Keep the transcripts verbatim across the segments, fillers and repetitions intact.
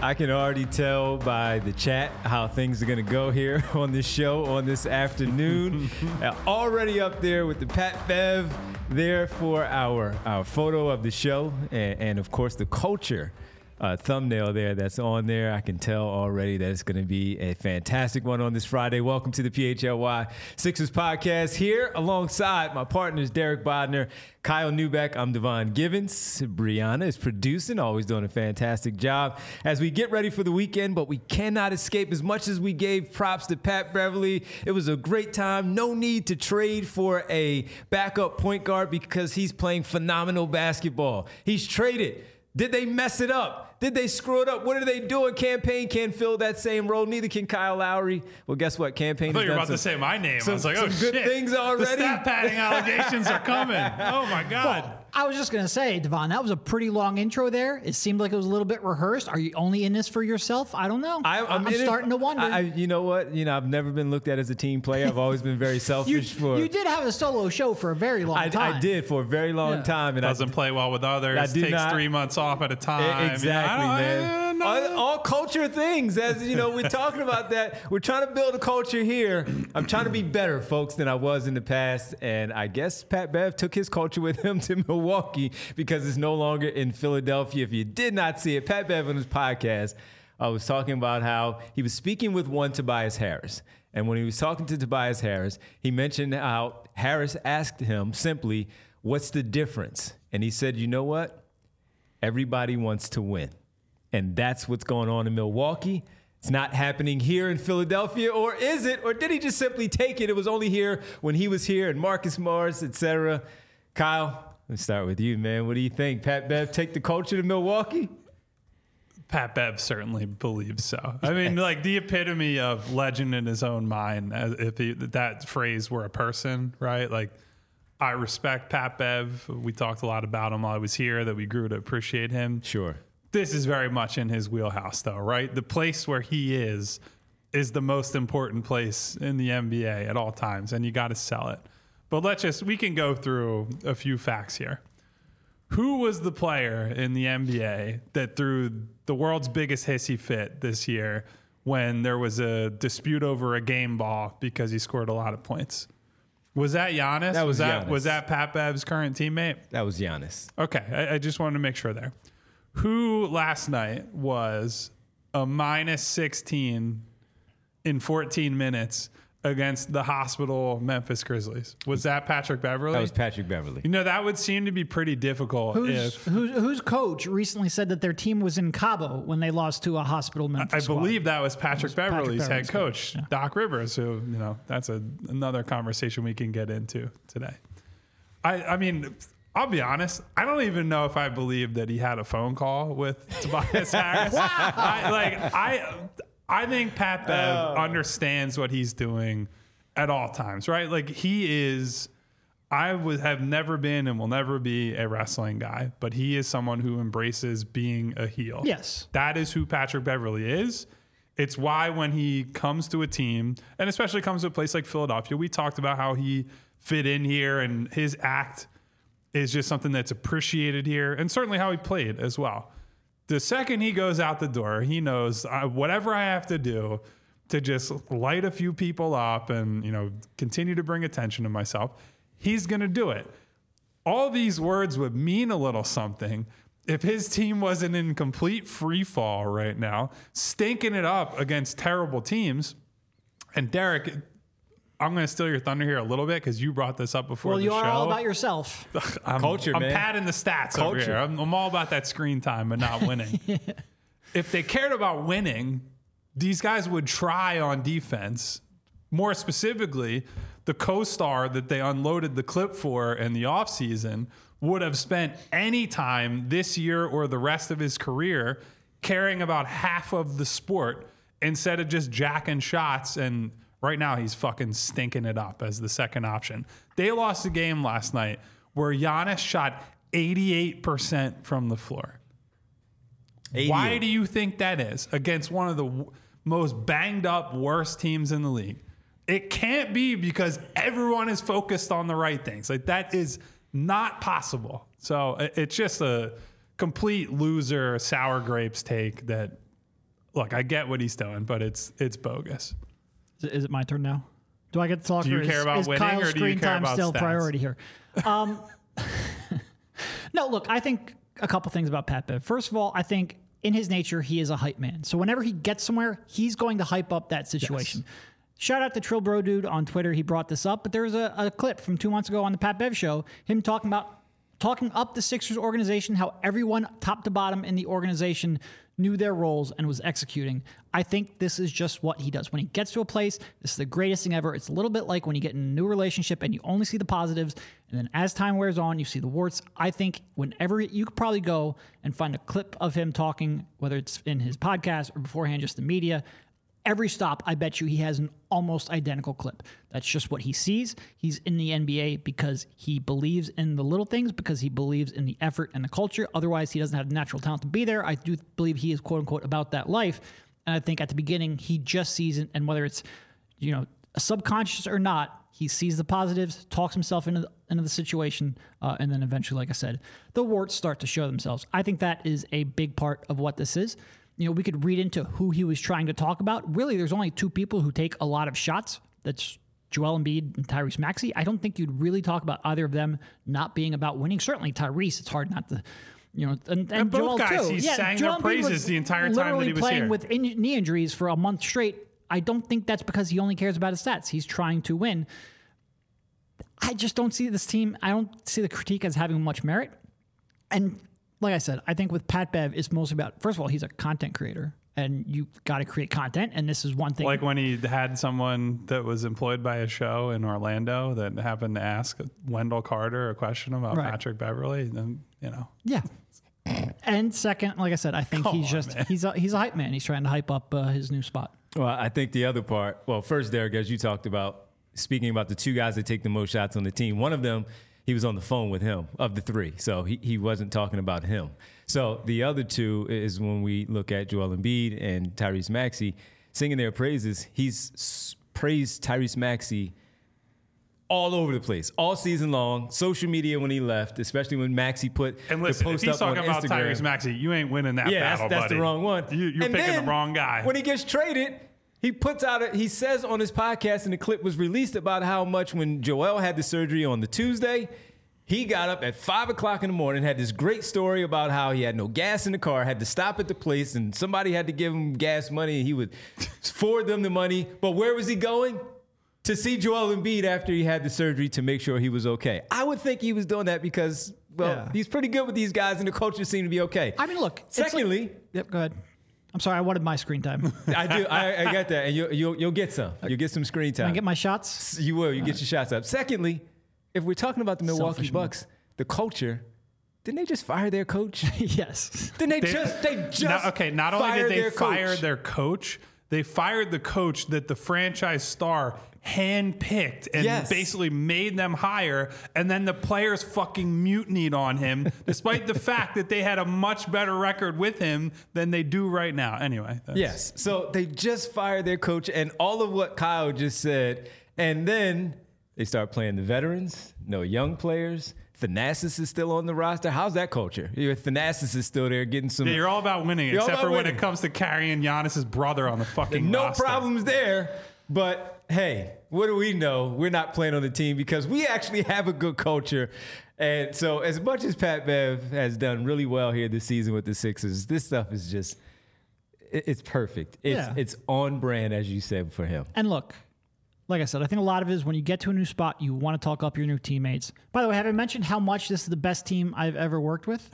I can already tell by the chat how things are going to go here on this show on this afternoon. uh, already up there with the Pat Bev there for our, our photo of the show and, and of course, the culture uh, thumbnail there that's on there. I can tell already that it's going to be a fantastic one on this Friday. Welcome to the P H L Y Sixers podcast here alongside my partners, Derek Bodner, Kyle Newbeck. I'm Devon Givens. Brianna is producing, always doing a fantastic job as we get ready for the weekend, but we cannot escape as much as we gave props to Pat Beverly. It was a great time. No need to trade for a backup point guard because he's playing phenomenal basketball. He's traded. Did they mess it up? Did they screw it up? What are they doing? Campaign can't fill that same role. Neither can Kyle Lowry. Well, guess what? Campaign. I thought you were about some, to say my name. Some, I was like, oh, some good shit. things already. The stat padding allegations are coming. Oh, my God. Well, I was just going to say, Devon, that was a pretty long intro there. It seemed like it was a little bit rehearsed. Are you only in this for yourself? I don't know. I, I'm, I'm starting it, to wonder. I, you know what? You know, I've never been looked at as a team player. I've always been very selfish. you, for you did have a solo show for a very long I, time. I did for a very long yeah. time. And Doesn't I, play well with others. I Takes not, three months off at a time. Exactly, I man. I, all, all culture things. As you know, we're talking about that. We're trying to build a culture here. I'm trying to be better, folks, than I was in the past. And I guess Pat Bev took his culture with him to Milwaukee because it's no longer in Philadelphia. If you did not see it, Pat Bev on his podcast, I was talking about how he was speaking with one Tobias Harris. And when he was talking to Tobias Harris, he mentioned how Harris asked him simply, what's the difference? And he said, you know what? Everybody wants to win. And that's what's going on in Milwaukee. It's not happening here in Philadelphia, or is it? Or did he just simply take it? It was only here when he was here and Marcus Morris, et cetera. Kyle, let's start with you, man. What do you think? Pat Bev take the culture to Milwaukee? Pat Bev certainly believes so. I mean, like the epitome of legend in his own mind, as if he, that phrase were a person, right? Like, I respect Pat Bev. We talked a lot about him while I was here, that we grew to appreciate him. Sure. This is very much in his wheelhouse, though, right? The place where he is is the most important place in the N B A at all times, and you got to sell it. But let's just, we can go through a few facts here. Who was the player in the N B A that threw the world's biggest hissy fit this year when there was a dispute over a game ball because he scored a lot of points? Was that Giannis? That was, was that Giannis. Was that Pat Bev's current teammate? That was Giannis. Okay, I, I just wanted to make sure there. Who last night was a minus sixteen in fourteen minutes against the hospital Memphis Grizzlies? Was that Patrick Beverly? That was Patrick Beverly. You know, that would seem to be pretty difficult. Who's, if who's, whose coach recently said that their team was in Cabo when they lost to a hospital Memphis I squad? believe that was Patrick was Beverly's Patrick head Beverly's coach, coach, yeah. Doc Rivers, who, you know, that's a, another conversation we can get into today. I, I mean, I'll be honest, I don't even know if I believe that he had a phone call with Tobias Harris. Wow. I, like, I, I think Pat Bev Oh. understands what he's doing at all times, right? Like, he is, I would have never been and will never be a wrestling guy, but he is someone who embraces being a heel. Yes. That is who Patrick Beverly is. It's why when he comes to a team, and especially comes to a place like Philadelphia, we talked about how he fit in here and his act is just something that's appreciated here, and certainly how he played as well. The second he goes out the door, he knows uh, whatever I have to do to just light a few people up and, you know, continue to bring attention to myself, he's going to do it. All these words would mean a little something if his team wasn't in complete free fall right now, stinking it up against terrible teams. And Derek, I'm going to steal your thunder here a little bit because you brought this up before Well, the you show. are all about yourself. I'm, Culture, I'm man. padding the stats Culture. over here. I'm, I'm all about that screen time but not winning. If they cared about winning, these guys would try on defense. More specifically, the co-star that they unloaded the clip for in the offseason would have spent any time this year or the rest of his career caring about half of the sport instead of just jacking shots. And right now he's fucking stinking it up as the second option. They lost a game last night where Giannis shot eighty-eight percent from the floor. eighty-eight. Why do you think that is against one of the w- most banged up, worst teams in the league? It can't be because everyone is focused on the right things. Like, that is not possible. So it- it's just a complete loser, sour grapes take that look, I get what he's doing, but it's it's bogus. Is it, is it my turn now? Do I get to talk? Do you or care is, about is winning, Kyle's or do you screen care time about still stats? priority here? Um, no, look, I think a couple things about Pat Bev. First of all, I think in his nature, he is a hype man. So whenever he gets somewhere, he's going to hype up that situation. Yes. Shout out to Trill Bro Dude on Twitter. He brought this up, but there's a, a clip from two months ago on the Pat Bev show, him talking about talking up the Sixers organization, how everyone top to bottom in the organization knew their roles and was executing. I think this is just what he does. When he gets to a place, this is the greatest thing ever. It's a little bit like when you get in a new relationship and you only see the positives, and then as time wears on, you see the warts. I think whenever you could probably go and find a clip of him talking, whether it's in his podcast or beforehand just the media, every stop, I bet you he has an almost identical clip. That's just what he sees. He's in the N B A because he believes in the little things, because he believes in the effort and the culture. Otherwise, he doesn't have the natural talent to be there. I do believe he is, quote unquote, about that life. And I think at the beginning, he just sees it. And whether it's, you know, a subconscious or not, he sees the positives, talks himself into the, into the situation, uh, and then eventually, like I said, the warts start to show themselves. I think that is a big part of what this is. You know, we could read into who he was trying to talk about. Really, there's only two people who take a lot of shots. That's Joel Embiid and Tyrese Maxey. I don't think you'd really talk about either of them not being about winning. Certainly Tyrese, it's hard not to, you know, and, and, and both Joel guys, too. he yeah, sang Joel their Embiid praises the entire time that he was playing here. with in, knee injuries for a month straight. I don't think that's because he only cares about his stats. He's trying to win. I just don't see this team. I don't see the critique as having much merit. And like I said, I think with Pat Bev, it's mostly about, first of all, he's a content creator. And you got to create content, and this is one thing. Like when he had someone that was employed by a show in Orlando that happened to ask Wendell Carter a question about right. Patrick Beverley, then you know. Yeah. And second, like I said, I think Come he's on, just man. he's a, he's a hype man. He's trying to hype up uh, his new spot. Well, I think the other part. Well, first, Derek, as you talked about, speaking about the two guys that take the most shots on the team, one of them, he was on the phone with him of the three, so he he wasn't talking about him. So the other two is when we look at Joel Embiid and Tyrese Maxey singing their praises. He's s- praised Tyrese Maxey all over the place, all season long. Social media when he left, especially when Maxey put and listen, the post if he's up on talking about Instagram. Tyrese Maxey, you ain't winning that yeah, battle, that's, that's buddy. the wrong one. You, you're and picking then, the wrong guy. When he gets traded, he puts out a, he says on his podcast, and the clip was released about how much when Joel had the surgery on the Tuesday, he got up at five o'clock in the morning, had this great story about how he had no gas in the car, had to stop at the place, and somebody had to give him gas money, and he would forward them the money. But where was he going? To see Joel Embiid after he had the surgery to make sure he was okay. I would think he was doing that because, well, yeah. he's pretty good with these guys, and the culture seemed to be okay. I mean, look. Secondly, like, yep, go ahead. I'm sorry, I wanted my screen time. I do. I, I get that, and you, you'll you'll get some. You'll get some screen time. Can I get my shots? You will. You All get right. your shots up. Secondly, if we're talking about the Milwaukee Selfish Bucks, move. the culture, didn't they just fire their coach? Yes. Didn't they, they just they just not, okay? Not only did they fire coach. their coach, they fired the coach that the franchise star handpicked and yes. basically made them hire, and then the players fucking mutinied on him, despite the fact that they had a much better record with him than they do right now. Anyway, that's... yes. So they just fired their coach, and all of what Kyle just said, and then they start playing the veterans, no young players. Thanasis is still on the roster. How's that culture? Thanasis is still there getting some. Yeah, you're all about winning, You're except about for when winning. it comes to carrying Giannis's brother on the fucking no roster. problems there. But hey, what do we know? We're not playing on the team because we actually have a good culture. And so as much as Pat Bev has done really well here this season with the Sixers, this stuff is just, it's perfect. It's Yeah. it's on brand, as you said, for him. And look, like I said, I think a lot of it is when you get to a new spot, you want to talk up your new teammates. By the way, have I mentioned how much this is the best team I've ever worked with?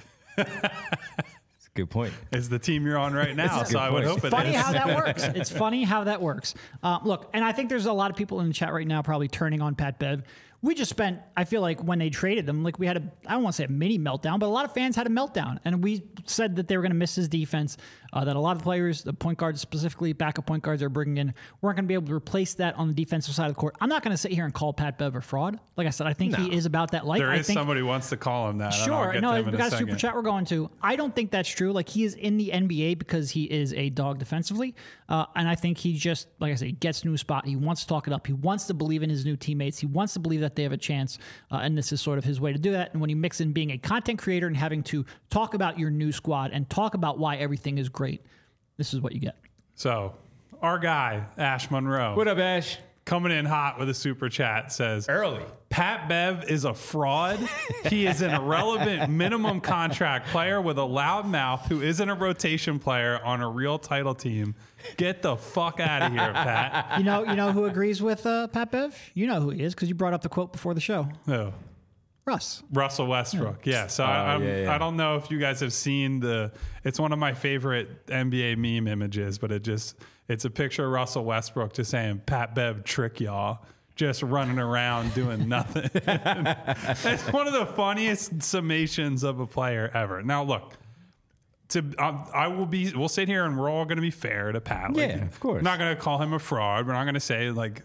Good point. It's the team you're on right now, so I would hope it funny is. how that works. It's funny how that works. Uh, look, and I think there's a lot of people in the chat right now probably turning on Pat Bev. We just spent, I feel like when they traded him, like we had a, I don't want to say a mini meltdown, but a lot of fans had a meltdown. And we said that they were going to miss his defense, uh, that a lot of players, the point guards specifically, backup point guards they're bringing in, weren't going to be able to replace that on the defensive side of the court. I'm not going to sit here and call Pat Bev a fraud. Like I said, I think No. he is about that life. There I is think, somebody who wants to call him that. Sure. No, we got a super second. chat we're going to. I don't think that's true. Like, he is in the N B A because he is a dog defensively. Uh, and I think he just, like I say, gets a new spot. He wants to talk it up. He wants to believe in his new teammates. He wants to believe that they have a chance. Uh, and this is sort of his way to do that. And when you mix in being a content creator and having to talk about your new squad and talk about why everything is great, this is what you get. So our guy, Ash Monroe. What up, Ash? Coming in hot with a super chat says, Early. Pat Bev is a fraud. He is an irrelevant minimum contract player with a loud mouth who isn't a rotation player on a real title team. Get the fuck out of here, Pat. You know, you know who agrees with uh, Pat Bev? You know who he is because you brought up the quote before the show. Oh. Russ. Russell Westbrook. Yeah. So Oh, I, I'm, yeah, yeah. I don't know if you guys have seen the, it's one of my favorite N B A meme images, but it just, it's a picture of Russell Westbrook just saying, Pat Bev trick y'all, just running around doing nothing. It's one of the funniest summations of a player ever. Now, look, to um, I will be, we'll sit here and we're all going to be fair to Pat. Like, Yeah, of course. We're not going to call him a fraud. We're not going to say like,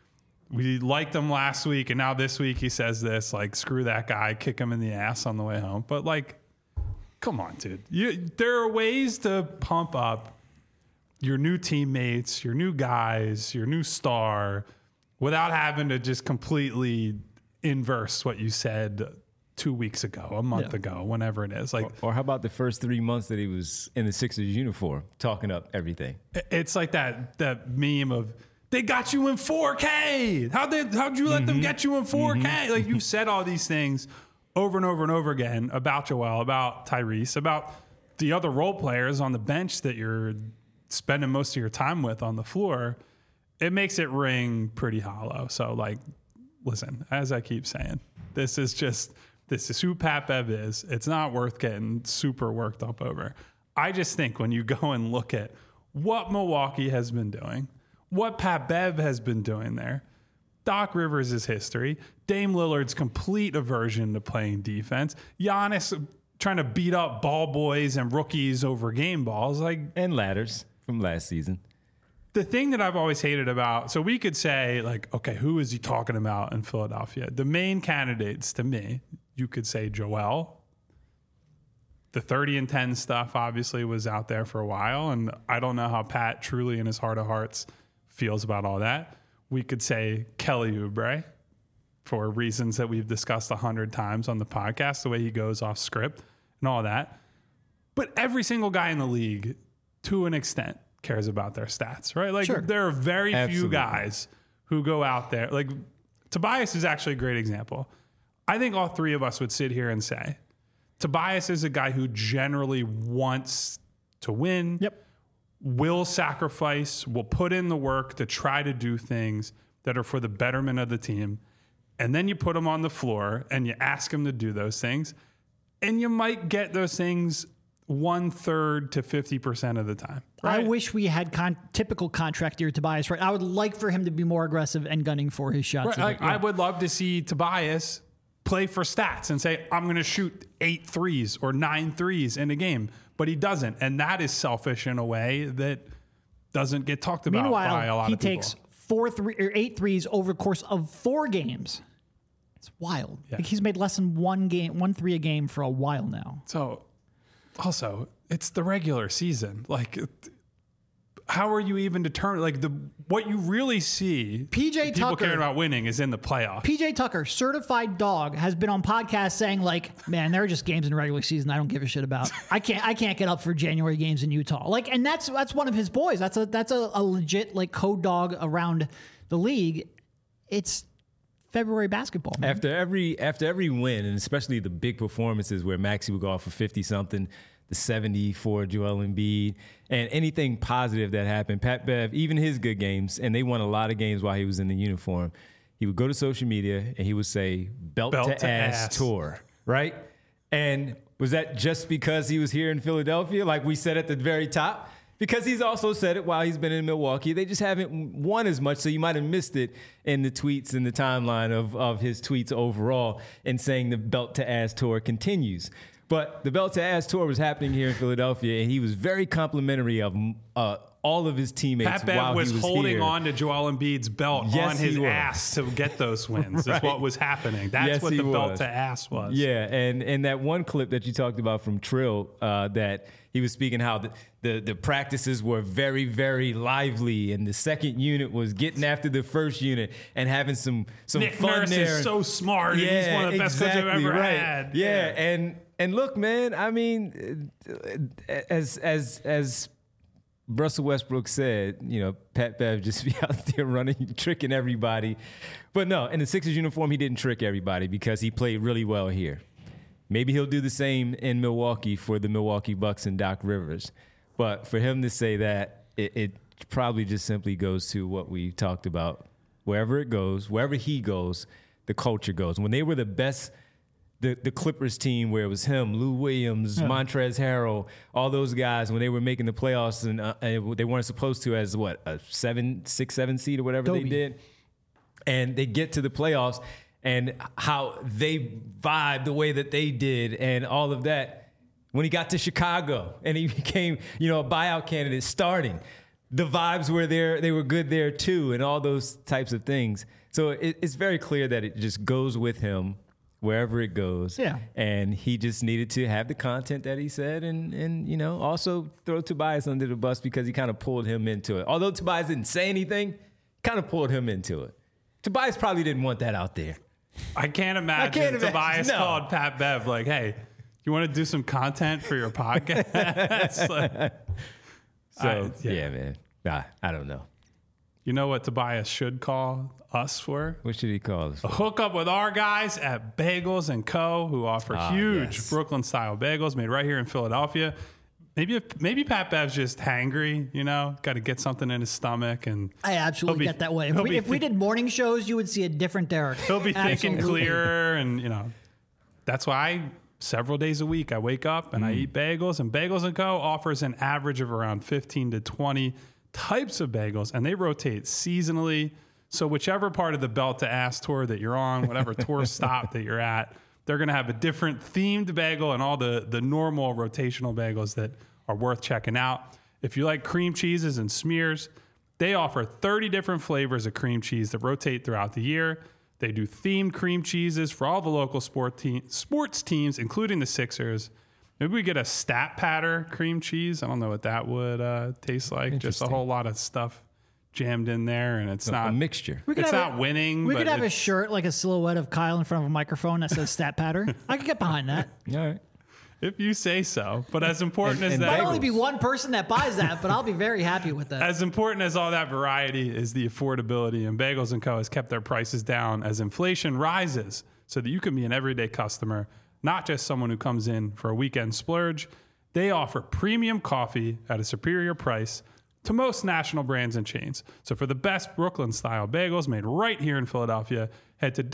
we liked him last week and now this week he says this, like, screw that guy, kick him in the ass on the way home. But like, come on, dude. You, there are ways to pump up your new teammates, your new guys, your new star without having to just completely inverse what you said two weeks ago, a month Yeah. ago, whenever it is. Like, Or how about the first three months that he was in the Sixers uniform, talking up everything? it's like that that meme of, they got you in four K. How'd, they, how'd you let Mm-hmm. them get you in four K? Like, you've said all these things over and over and over again about Joel, about Tyrese, about the other role players on the bench that you're spending most of your time with on the floor. It makes it ring pretty hollow. So, like, listen, as I keep saying, this is just, this is who Pat Bev is. It's not worth getting super worked up over. I just think when you go and look at what Milwaukee has been doing, what Pat Bev has been doing there, Doc Rivers' history, Dame Lillard's complete aversion to playing defense, Giannis trying to beat up ball boys and rookies over game balls, like, And ladders from last season. the thing that I've always hated about, so we could say, like, okay, who is he talking about in Philadelphia? The main candidates to me, you could say Joel. The thirty and ten stuff obviously was out there for a while, and I don't know how Pat truly in his heart of hearts feels about all that. We could say Kelly Oubre for reasons that we've discussed a hundred times on the podcast, the way he goes off script and all that. But every single guy in the league, to an extent, cares about their stats, right? Like, Sure. there are very Absolutely. few guys who go out there. Like, Tobias is actually a great example. I think all three of us would sit here and say, Tobias is a guy who generally wants to win, Yep. will sacrifice, will put in the work to try to do things that are for the betterment of the team. And then you put him on the floor and you ask him to do those things, and you might get those things one third to fifty percent of the time. I right? wish we had con- typical contract year Tobias. Right, I would like for him to be more aggressive and gunning for his shots. Right, a like, bit, yeah. I would love to see Tobias play for stats and say, I'm going to shoot eight threes or nine threes in a game, but he doesn't. And that is selfish in a way that doesn't get talked about by a Meanwhile, lot he of people. takes four three or eight threes over the course of four games. It's wild. Yeah. Like, he's made less than one game, one three a game for a while now. So, also, it's the regular season. Like, how are you even determined? Like, the what you really see, P J people Tucker- caring about winning, is in the playoffs. P J Tucker, certified dog, has been on podcasts saying, like, man, there are just games in the regular season I don't give a shit about. I can't I can't get up for January games in Utah. Like, and that's that's one of his boys. That's a that's a, a legit like code dog around the league. It's February basketball, man. After every after every win, and especially the big performances where Maxey would go off for fifty something, the seventy for Joel Embiid, and anything positive that happened, Pat Bev, even his good games, and they won a lot of games while he was in the uniform, he would go to social media and he would say belt, Belt to, to ass, ass. tour, right? And was that just because he was here in Philadelphia, like we said at the very top? Because he's also said it while he's been in Milwaukee. They just haven't won as much, so you might have missed it in the tweets and the timeline of, of his tweets overall, and saying the belt to ass tour continues. But the belt to ass tour was happening here in Philadelphia, and he was very complimentary of uh, all of his teammates Pat Bev while was, he was holding here. on to Joel Embiid's belt Yes, on his he was. ass to get those wins. Right. Is what was happening. That's Yes, what he the belt was. to ass was. Yeah, and and that one clip that you talked about from Trill, uh, that he was speaking how the, the the practices were very, very lively, and the second unit was getting after the first unit and having some some Nick fun Nurse there. is so smart. and he's one of the best coaches I've exactly, ever right. had. Yeah, and and look, man, I mean, uh, as as as Russell Westbrook said, you know, Pat Bev just be out there running, tricking everybody. But no, in the Sixers uniform, he didn't trick everybody because he played really well here. Maybe he'll do the same in Milwaukee for the Milwaukee Bucks and Doc Rivers. But for him to say that, it, it probably just simply goes to what we talked about. Wherever it goes, wherever he goes, the culture goes. When they were the best, the, the Clippers team where it was him, Lou Williams, yeah. Montrezl Harrell, all those guys, when they were making the playoffs and, uh, and they weren't supposed to as, what, a seven, six, seven seed or whatever Dobie. they did. And they get to the playoffs and how they vibe the way that they did and all of that. When he got to Chicago and he became, you know, a buyout candidate starting, the vibes were there. They were good there too, and all those types of things. So it, it's very clear that it just goes with him wherever it goes. Yeah. And he just needed to have the content that he said and, and you know, also throw Tobias under the bus because he kind of pulled him into it. Although Tobias didn't say anything, kind of pulled him into it. Tobias probably didn't want that out there. I can't imagine I can't Tobias imagine. No. called Pat Bev like, hey, you want to do some content for your podcast? like, so, I, yeah. yeah, man. Nah, I don't know. You know what Tobias should call us for? What should he call us for? A hookup with our guys at Bagels and Co., who offer ah, huge yes. Brooklyn-style bagels made right here in Philadelphia. Maybe if, maybe Pat Bev's just hangry, you know, got to get something in his stomach. And I absolutely be, get that way. If, we, if th- we did morning shows, you would see a different Derek. He'll be thinking clearer, and, you know, that's why I, several days a week I wake up and mm. I eat bagels. And Bagels and Co. offers an average of around fifteen to twenty types of bagels, and they rotate seasonally. So whichever part of the Belt to Ass tour that you're on, whatever tour stop that you're at, they're going to have a different themed bagel and all the, the normal rotational bagels that are worth checking out. If you like cream cheeses and smears, they offer thirty different flavors of cream cheese that rotate throughout the year. They do themed cream cheeses for all the local sport te- sports teams, including the Sixers. Maybe we get a stat patter cream cheese. I don't know what that would uh, taste like. Just a whole lot of stuff jammed in there, and it's a, not a mixture. It's not a, winning. We but could have a shirt like a silhouette of Kyle in front of a microphone that says stat patter. I could get behind that. All right. If you say so. But as important and, as and that... Might only be one person that buys that, but I'll be very happy with that. As important as all that variety is the affordability, and Bagels and Co. has kept their prices down as inflation rises so that you can be an everyday customer, not just someone who comes in for a weekend splurge. They offer premium coffee at a superior price to most national brands and chains. So for the best Brooklyn-style bagels made right here in Philadelphia, head to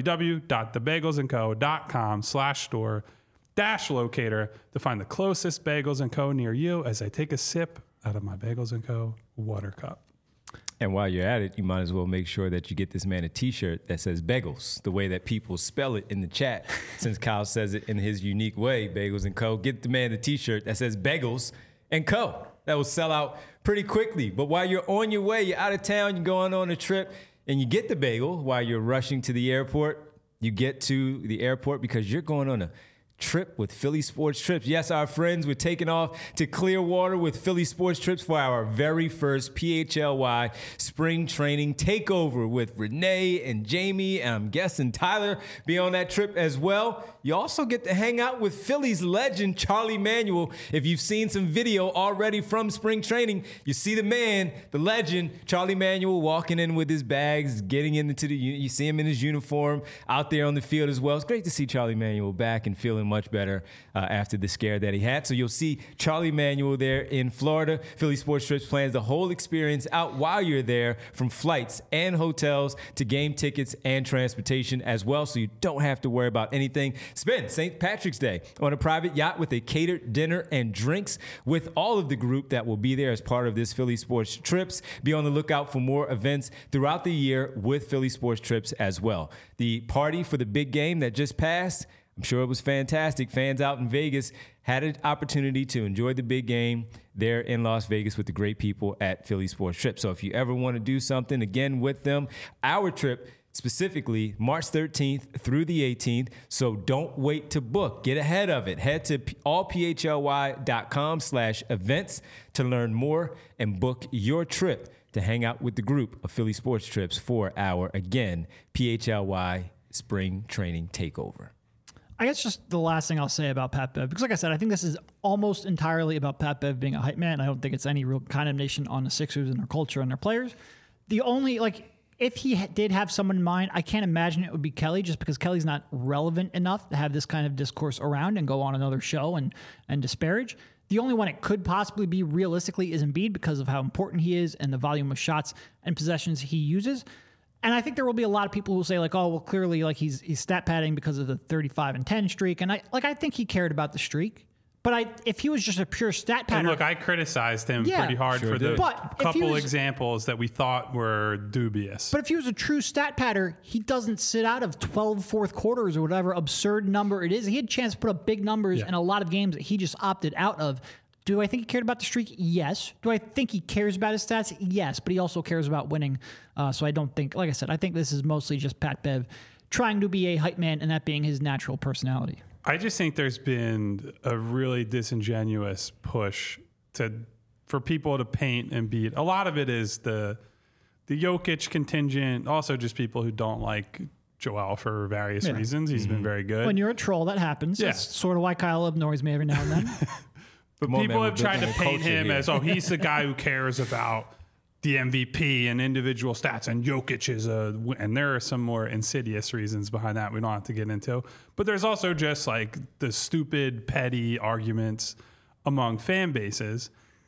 www.thebagelsandco.com slash store dash locator to find the closest Bagels and Co. near you as I take a sip out of my Bagels and Co. water cup. And while you're at it, you might as well make sure that you get this man a T-shirt that says Bagels, the way that people spell it in the chat, since Kyle says it in his unique way, Bagels and Co. Get the man the T-shirt that says Bagels and Co. That will sell out pretty quickly. But while you're on your way, you're out of town, you're going on a trip, and you get the bagel while you're rushing to the airport. You get to the airport because you're going on a trip with Philly Sports Trips. Yes, our friends, we're taking off to Clearwater with Philly Sports Trips for our very first P H L Y spring training takeover with Renee and Jamie, and I'm guessing Tyler be on that trip as well. You also get to hang out with Philly's legend, Charlie Manuel. If you've seen some video already from spring training, you see the man, the legend, Charlie Manuel, walking in with his bags, getting into the, you see him in his uniform out there on the field as well. It's great to see Charlie Manuel back and feeling much better uh, after the scare that he had. So you'll see Charlie Manuel there in Florida. Philly Sports Trips plans the whole experience out while you're there, from flights and hotels to game tickets and transportation as well, so you don't have to worry about anything. Spend Saint Patrick's Day on a private yacht with a catered dinner and drinks with all of the group that will be there as part of this Philly Sports Trips. Be on the lookout for more events throughout the year with Philly Sports Trips as well. The party for the big game that just passed, I'm sure it was fantastic. Fans out in Vegas had an opportunity to enjoy the big game there in Las Vegas with the great people at Philly Sports Trips. So if you ever want to do something again with them, our trip specifically March thirteenth through the eighteenth. So don't wait to book. Get ahead of it. Head to all p h l y dot com slash events to learn more and book your trip to hang out with the group of Philly Sports Trips for our, again, P H L Y Spring Training Takeover. I guess just the last thing I'll say about Pat Bev, because like I said, I think this is almost entirely about Pat Bev being a hype man. I don't think it's any real condemnation on the Sixers and their culture and their players. The only, like, if he ha- did have someone in mind, I can't imagine it would be Kelly, just because Kelly's not relevant enough to have this kind of discourse around and go on another show and, and disparage. The only one it could possibly be realistically is Embiid, because of how important he is and the volume of shots and possessions he uses. And I think there will be a lot of people who will say, like, oh, well, clearly, like, he's he's stat padding because of the thirty-five and ten streak. And I like I think he cared about the streak. But I, if he was just a pure stat pattern, And look, I criticized him Yeah. pretty hard Sure for the did. But if he couple was- examples that we thought were dubious. But if he was a true stat pattern, he doesn't sit out of twelve fourth quarters or whatever absurd number it is. He had a chance to put up big numbers Yeah. in a lot of games that he just opted out of. Do I think he cared about the streak? Yes. Do I think he cares about his stats? Yes. But he also cares about winning. Uh, so I don't think, like I said, I think this is mostly just Pat Bev trying to be a hype man and that being his natural personality. I just think there's been a really disingenuous push to for people to paint Embiid. A lot of it is the the Jokic contingent, also just people who don't like Joel for various Yeah. reasons. He's been very good. When you're a troll, that happens. Yeah. That's sort of why Kyle annoys me every now and then. But Come on, people man, have we're tried to building a paint culture him here. as, oh, he's the guy who cares about the M V P and individual stats, and Jokic is a, and there are some more insidious reasons behind that we don't have to get into. But there's also just like the stupid, petty arguments among fan bases.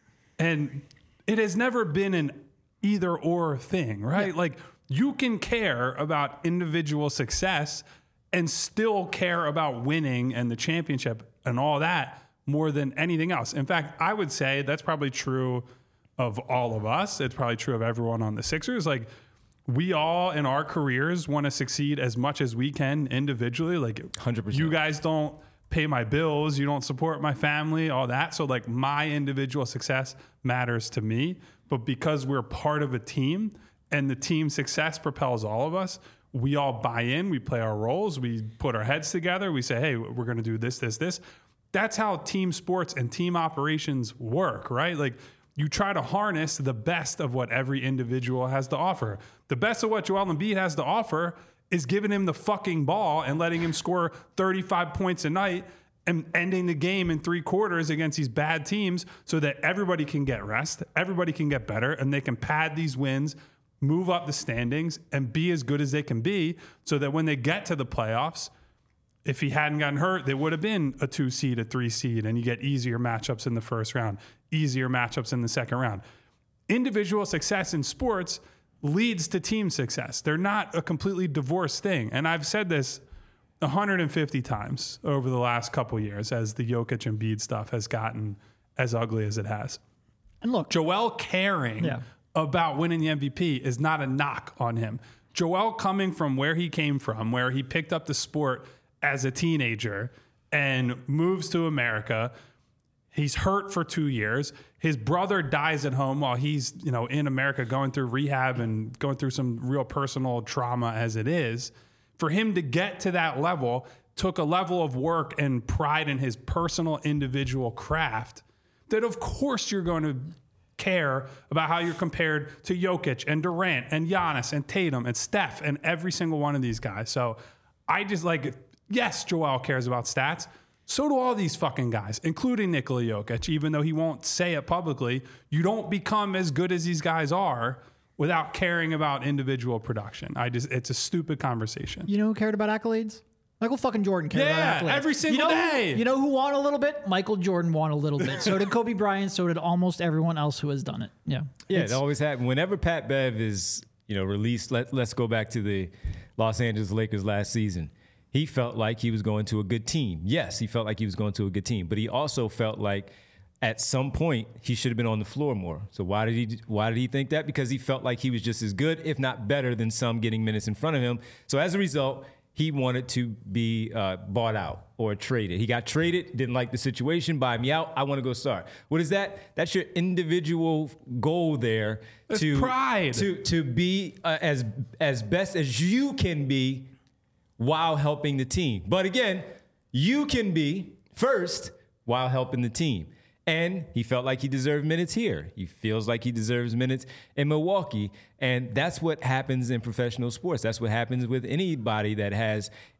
And it has never been an either or thing, right? Yeah. Like you can care about individual success and still care about winning and the championship and all that more than anything else. In fact, I would say that's probably true of all of us. It's probably true of everyone on the Sixers. Like we all in our careers want to succeed as much as we can individually. Like one hundred percent. you guys don't pay my bills, you don't support my family, all that. So like my individual success matters to me, but because we're part of a team and the team success propels all of us, we all buy in, we play our roles, we put our heads together, we say, hey, we're going to do this, this, this. That's how team sports and team operations work, right? Like you try to harness the best of what every individual has to offer. The best of what Joel Embiid has to offer is giving him the fucking ball and letting him score thirty-five points a night and ending the game in three quarters against these bad teams so that everybody can get rest, everybody can get better, and they can pad these wins, move up the standings, and be as good as they can be so that when they get to the playoffs, if he hadn't gotten hurt, they would have been a two seed, a three seed, and you get easier matchups in the first round, easier matchups in the second round. Individual success in sports leads to team success. They're not a completely divorced thing. And I've said this one hundred fifty times over the last couple years as the Jokic and Embiid stuff has gotten as ugly as it has. And look, Joel caring Yeah. about winning the M V P is not a knock on him. Joel coming from where he came from, where he picked up the sport as a teenager and moves to America. He's hurt for two years. His brother dies at home while he's, you know, in America going through rehab and going through some real personal trauma as it is. For him to get to that level took a level of work and pride in his personal individual craft that of course you're going to care about how you're compared to Jokic and Durant and Giannis and Tatum and Steph and every single one of these guys. So I just like, yes, Joel cares about stats. So do all these fucking guys, including Nikola Jokic, even though he won't say it publicly. You don't become as good as these guys are without caring about individual production. I just, it's a stupid conversation. you know who cared about accolades? Michael fucking Jordan cared Yeah, about accolades. every single you know, day. You know who won a little bit? Michael Jordan won a little bit. So did Kobe Bryant. So did almost everyone else who has done it. Yeah. Yeah, It's- it always happens. Whenever Pat Bev is, you know, released, let, let's go back to the Los Angeles Lakers last season. He felt like he was going to a good team. Yes, he felt like he was going to a good team, but he also felt like at some point he should have been on the floor more. So why did he why did he think that? Because he felt like he was just as good, if not better, than some getting minutes in front of him. So as a result, he wanted to be uh, bought out or traded. He got traded, didn't like the situation, buy me out, I want to go start. What is that? That's your individual goal there. That's to pride. To to be uh, as as best as you can be while helping the team. But again, you can be first while helping the team. And he felt like he deserved minutes here. He feels like he deserves minutes in Milwaukee. And that's what happens in professional sports. That's what happens with anybody that has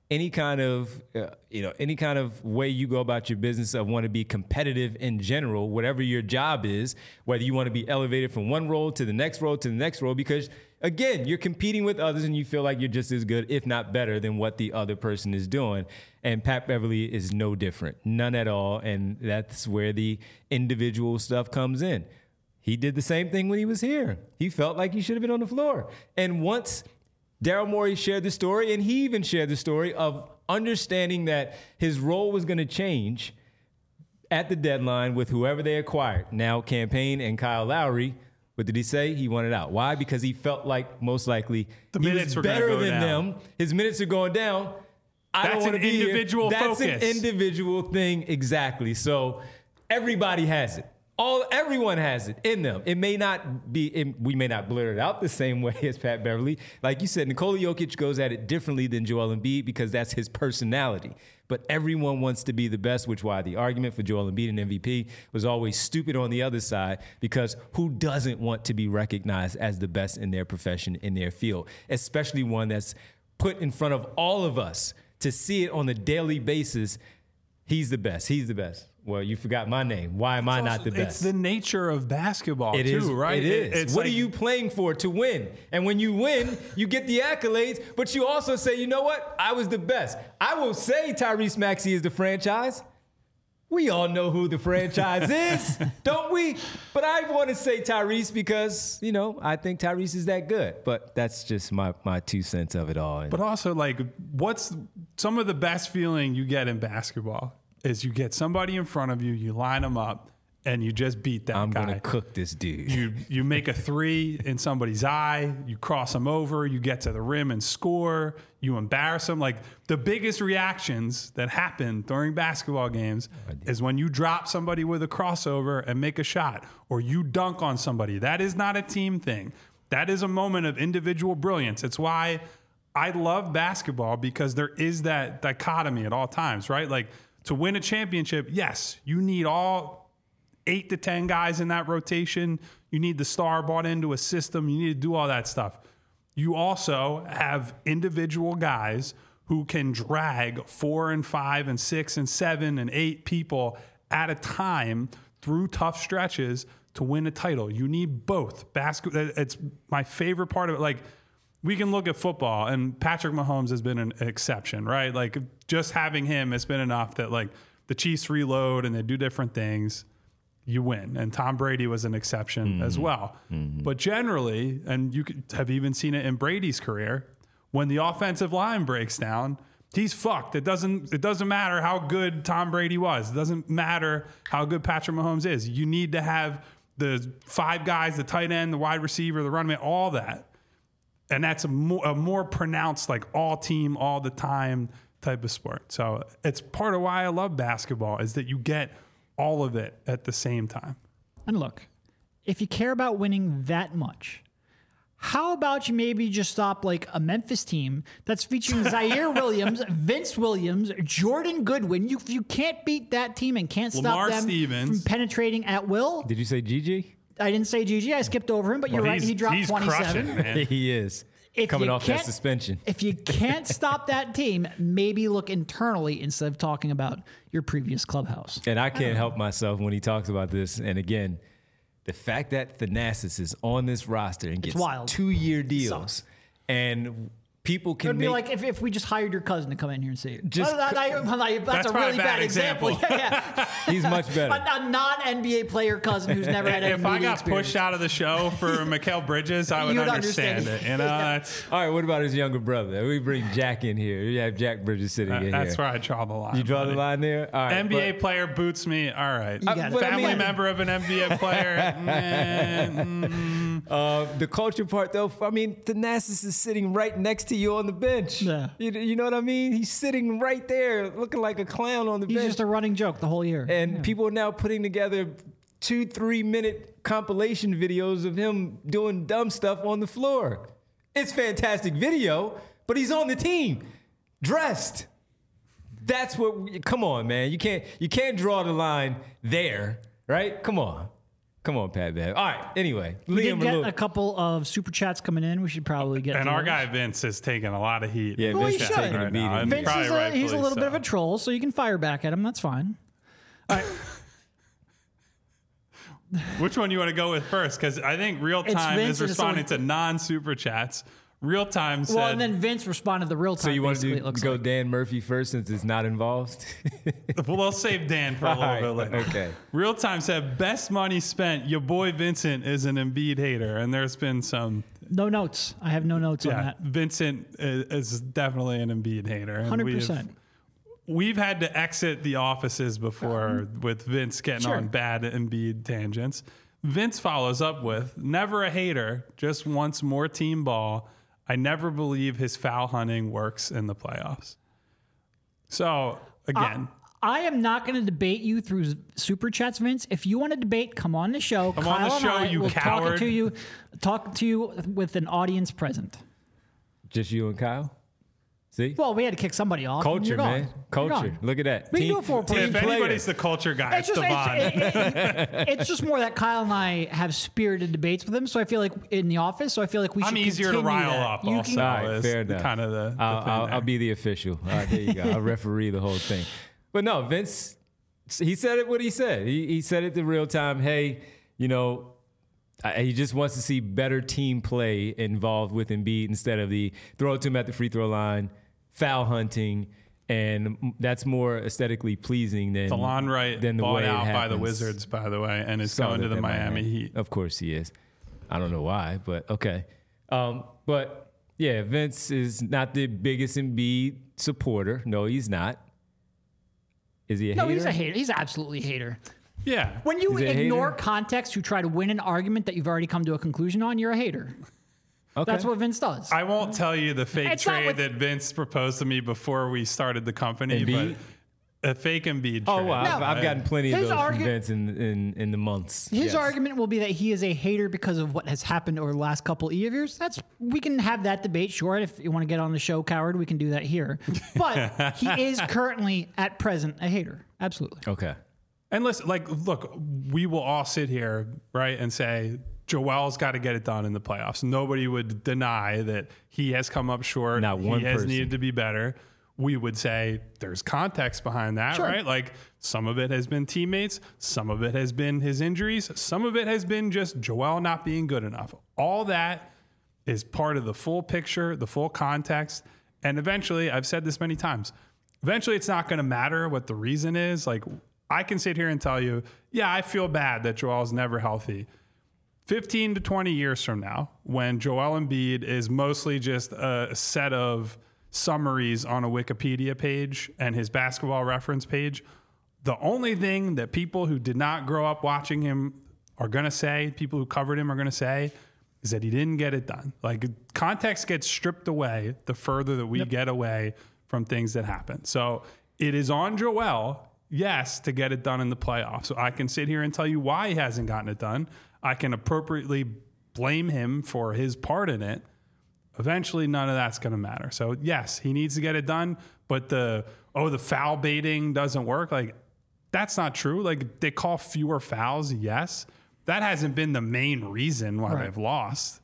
any kind of, uh, you know, any kind of way you go about your business of want to be competitive in general, whatever your job is, whether you want to be elevated from one role to the next role to the next role, because again, you're competing with others and you feel like you're just as good, if not better, than what the other person is doing. And Pat Beverly is no different, none at all. And that's where the individual stuff comes in. He did the same thing when he was here. He felt like he should have been on the floor. And once Daryl Morey shared the story, and he even shared the story of understanding that his role was going to change at the deadline with whoever they acquired. Now, Campaign and Kyle Lowry, what did he say? He wanted out. Why? Because he felt like most likely the he minutes was were better go than down. them. His minutes are going down. I That's don't want to an be individual here. That's focus. an individual thing, exactly. So everybody has it. All everyone has it in them. It may not be. It, we may not blur it out the same way as Pat Beverly. Like you said, Nikola Jokic goes at it differently than Joel Embiid because that's his personality. But everyone wants to be the best, which is why the argument for Joel Embiid and M V P was always stupid on the other side, because who doesn't want to be recognized as the best in their profession, in their field, especially one that's put in front of all of us to see it on a daily basis. He's the best. He's the best. Well, you forgot my name. Why am I not the best? It's the nature of basketball, It too, is, right? It is. It's what like, are you playing for? To win. And when you win, you get the accolades, but you also say, you know what? I was the best. I will say Tyrese Maxey is the franchise. We all know who the franchise is, don't we? But I want to say Tyrese because, you know, I think Tyrese is that good. But that's just my, my two cents of it all. But also, like, what's some of the best feeling you get in basketball is you get somebody in front of you, you line them up, and you just beat that I'm guy. going to cook this dude. You you make a three in somebody's eye, you cross them over, you get to the rim and score, you embarrass them. Like, the biggest reactions that happen during basketball games is when you drop somebody with a crossover and make a shot, or you dunk on somebody. That is not a team thing. That is a moment of individual brilliance. It's why I love basketball, because there is that dichotomy at all times, right? Like, to win a championship, yes, you need all eight to ten guys in that rotation. You need the star bought into a system. You need to do all that stuff. You also have individual guys who can drag four and five and six and seven and eight people at a time through tough stretches to win a title. You need both. Basketball, it's my favorite part of it. Like, we can look at football, and Patrick Mahomes has been an exception, right? Like, just having him has been enough that, like, the Chiefs reload and they do different things, you win. And Tom Brady was an exception mm-hmm. as well. Mm-hmm. But generally, and you could have even seen it in Brady's career, when the offensive line breaks down, he's fucked. It doesn't, it doesn't matter how good Tom Brady was. It doesn't matter how good Patrick Mahomes is. You need to have the five guys, the tight end, the wide receiver, the running back, all that. And that's a more, a more pronounced, like, all team, all the time type of sport. So it's part of why I love basketball, is that you get all of it at the same time. And look, if you care about winning that much, how about you maybe just stop, like, a Memphis team that's featuring Zaire Williams, Vince Williams, Jordan Goodwin. You you can't beat that team and can't stop Lamar them Stevens. from penetrating at will. Did you say Gigi? I didn't say Gigi. I skipped over him, but you're Well, right. he's- He dropped he's twenty-seven. crushing, man. He is. If Coming you off that can't- suspension. If you can't stop that team, maybe look internally instead of talking about your previous clubhouse. And I can't help myself when he talks about this. And again, the fact that Thanasis is on this roster and gets wild. two-year deals, Sucks. and people It can would be make like if, if we just hired your cousin to come in here and see it. Just Well, that- I- well, I- that's, That's a probably really a bad bad example. example. yeah, yeah. he's much better. A, a non-N B A player cousin who's never had any If I media got experience. pushed out of the show for Mikal Bridges, I would You'd understand, understand it. You know, Yeah. that's All right, what about his younger brother? We bring Jack in here. We have Jack Bridges sitting in that's here. where I draw the line. You draw buddy. the line there? All right. N B A but- player boots me. All right. got it. but I Family mean- member of an N B A player. Nah, mm. Uh, the culture part, though, I mean, Thanasis is sitting right next to you on the bench. Yeah. You, you know what I mean? He's sitting right there looking like a clown on the He's bench. just a running joke the whole year. and people are now putting together two, three minute compilation videos of him doing dumb stuff on the floor. It's fantastic video, but he's on the team, dressed. That's what. We, come on, man. You can't. You can't draw the line there, right? Come on. Come on, Pat Bev. All right. Anyway, We did Liam, get a little, a couple of super chats coming in. We should probably get And to our those. guy Vince is taking a lot of heat. yeah, Well, Vince he is should. taking a Right beating. now, and Vince probably is a, he's a rightfully little bit of so. a troll, so you can fire back at him. That's fine. All right. Which one you want to go with first? Because I think Real It's Time Vince is and it's responding only- to non-super chats. Real Time said, Well, and then Vince responded the real time. So you want basically, to it do, looks go like. Dan Murphy first since it's not involved? well, I'll save Dan for a little All right, bit later. okay. Real Time said, best money spent. Your boy Vincent is an Embiid hater. And there's been some, No notes. I have no notes on yeah, that. Vincent is, is definitely an Embiid hater. And one hundred we've- percent. We've had to exit the offices before with Vince getting Sure. on bad Embiid tangents. Vince follows up with, never a hater, just wants more team ball. I never believe his foul hunting works in the playoffs. So, again, I am not going to debate you through super chats, Vince. If you want to debate, come on the show. Come Kyle on the and show, I you will talk coward. to you, talk to you with an audience present. Just you and Kyle? See? Well, we had to kick somebody off. and Culture, you're gone. man. You're Culture. gone. Look at that. We can do it for a team team if player. anybody's the culture guy, It's it's, just, Devon. it's, it- it- it's just more that Kyle and I have spirited debates with him. So I feel like in the office, so I feel like we should I'm easier to continue rise that. up You also. can- All right, is fair enough. kind of the, the I'll, thing I'll, there. I'll be the official. All right, there you go. I'll referee the whole thing. But no, Vince, he said it what he said. He, he said it the real time. Hey, you know, I, he just wants to see better team play involved with Embiid instead of the throw it to him at the free throw line, foul hunting, and that's more aesthetically pleasing than DeLon Wright than the bought way it out by the happens. Wizards, by the way, and is Saw going to that the they might Miami have. Heat. Of course he is. I don't know why, but okay. Um, but yeah, Vince is not the biggest Embiid supporter. No, he's not. Is he a No, hater? he's a hater. He's absolutely a hater. Yeah. When you Is he a ignore hater? context to try to win an argument that you've already come to a conclusion on, you're a hater. Okay. That's what Vince does. I won't tell you the fake It's not trade with- that Vince proposed to me before we started the company, Embiid? but a fake Embiid Oh trade. wow, I've, No. I've gotten plenty of His those argu- from Vince in, in in the months. His Yes. argument will be that he is a hater because of what has happened over the last couple of years. That's we can have that debate, sure. If you want to get on the show, coward, we can do that here. But he is currently, at present, a hater. Absolutely. Okay. And listen, like, look, we will all sit here, right, and say Joel's got to get it done in the playoffs. Nobody would deny that he has come up short. Not one he has person. needed to be better. We would say there's context behind that, Sure. right? Like some of it has been teammates, some of it has been his injuries, some of it has been just Joel not being good enough. All that is part of the full picture, the full context. And eventually, I've said this many times, eventually it's not going to matter what the reason is. Like I can sit here and tell you, yeah, I feel bad that Joel's never healthy. fifteen to twenty years from now, when Joel Embiid is mostly just a set of summaries on a Wikipedia page and his basketball reference page, the only thing that people who did not grow up watching him are going to say, people who covered him are going to say, is that he didn't get it done. Like context gets stripped away the further that we Yep. get away from things that happen. So it is on Joel, yes, to get it done in the playoffs. So I can sit here and tell you why he hasn't gotten it done. I can appropriately blame him for his part in it. Eventually, none of that's going to matter. So yes, he needs to get it done. But the, oh, the foul baiting doesn't work. Like that's not true. Like they call fewer fouls. Yes. That hasn't been the main reason why Right. they've lost.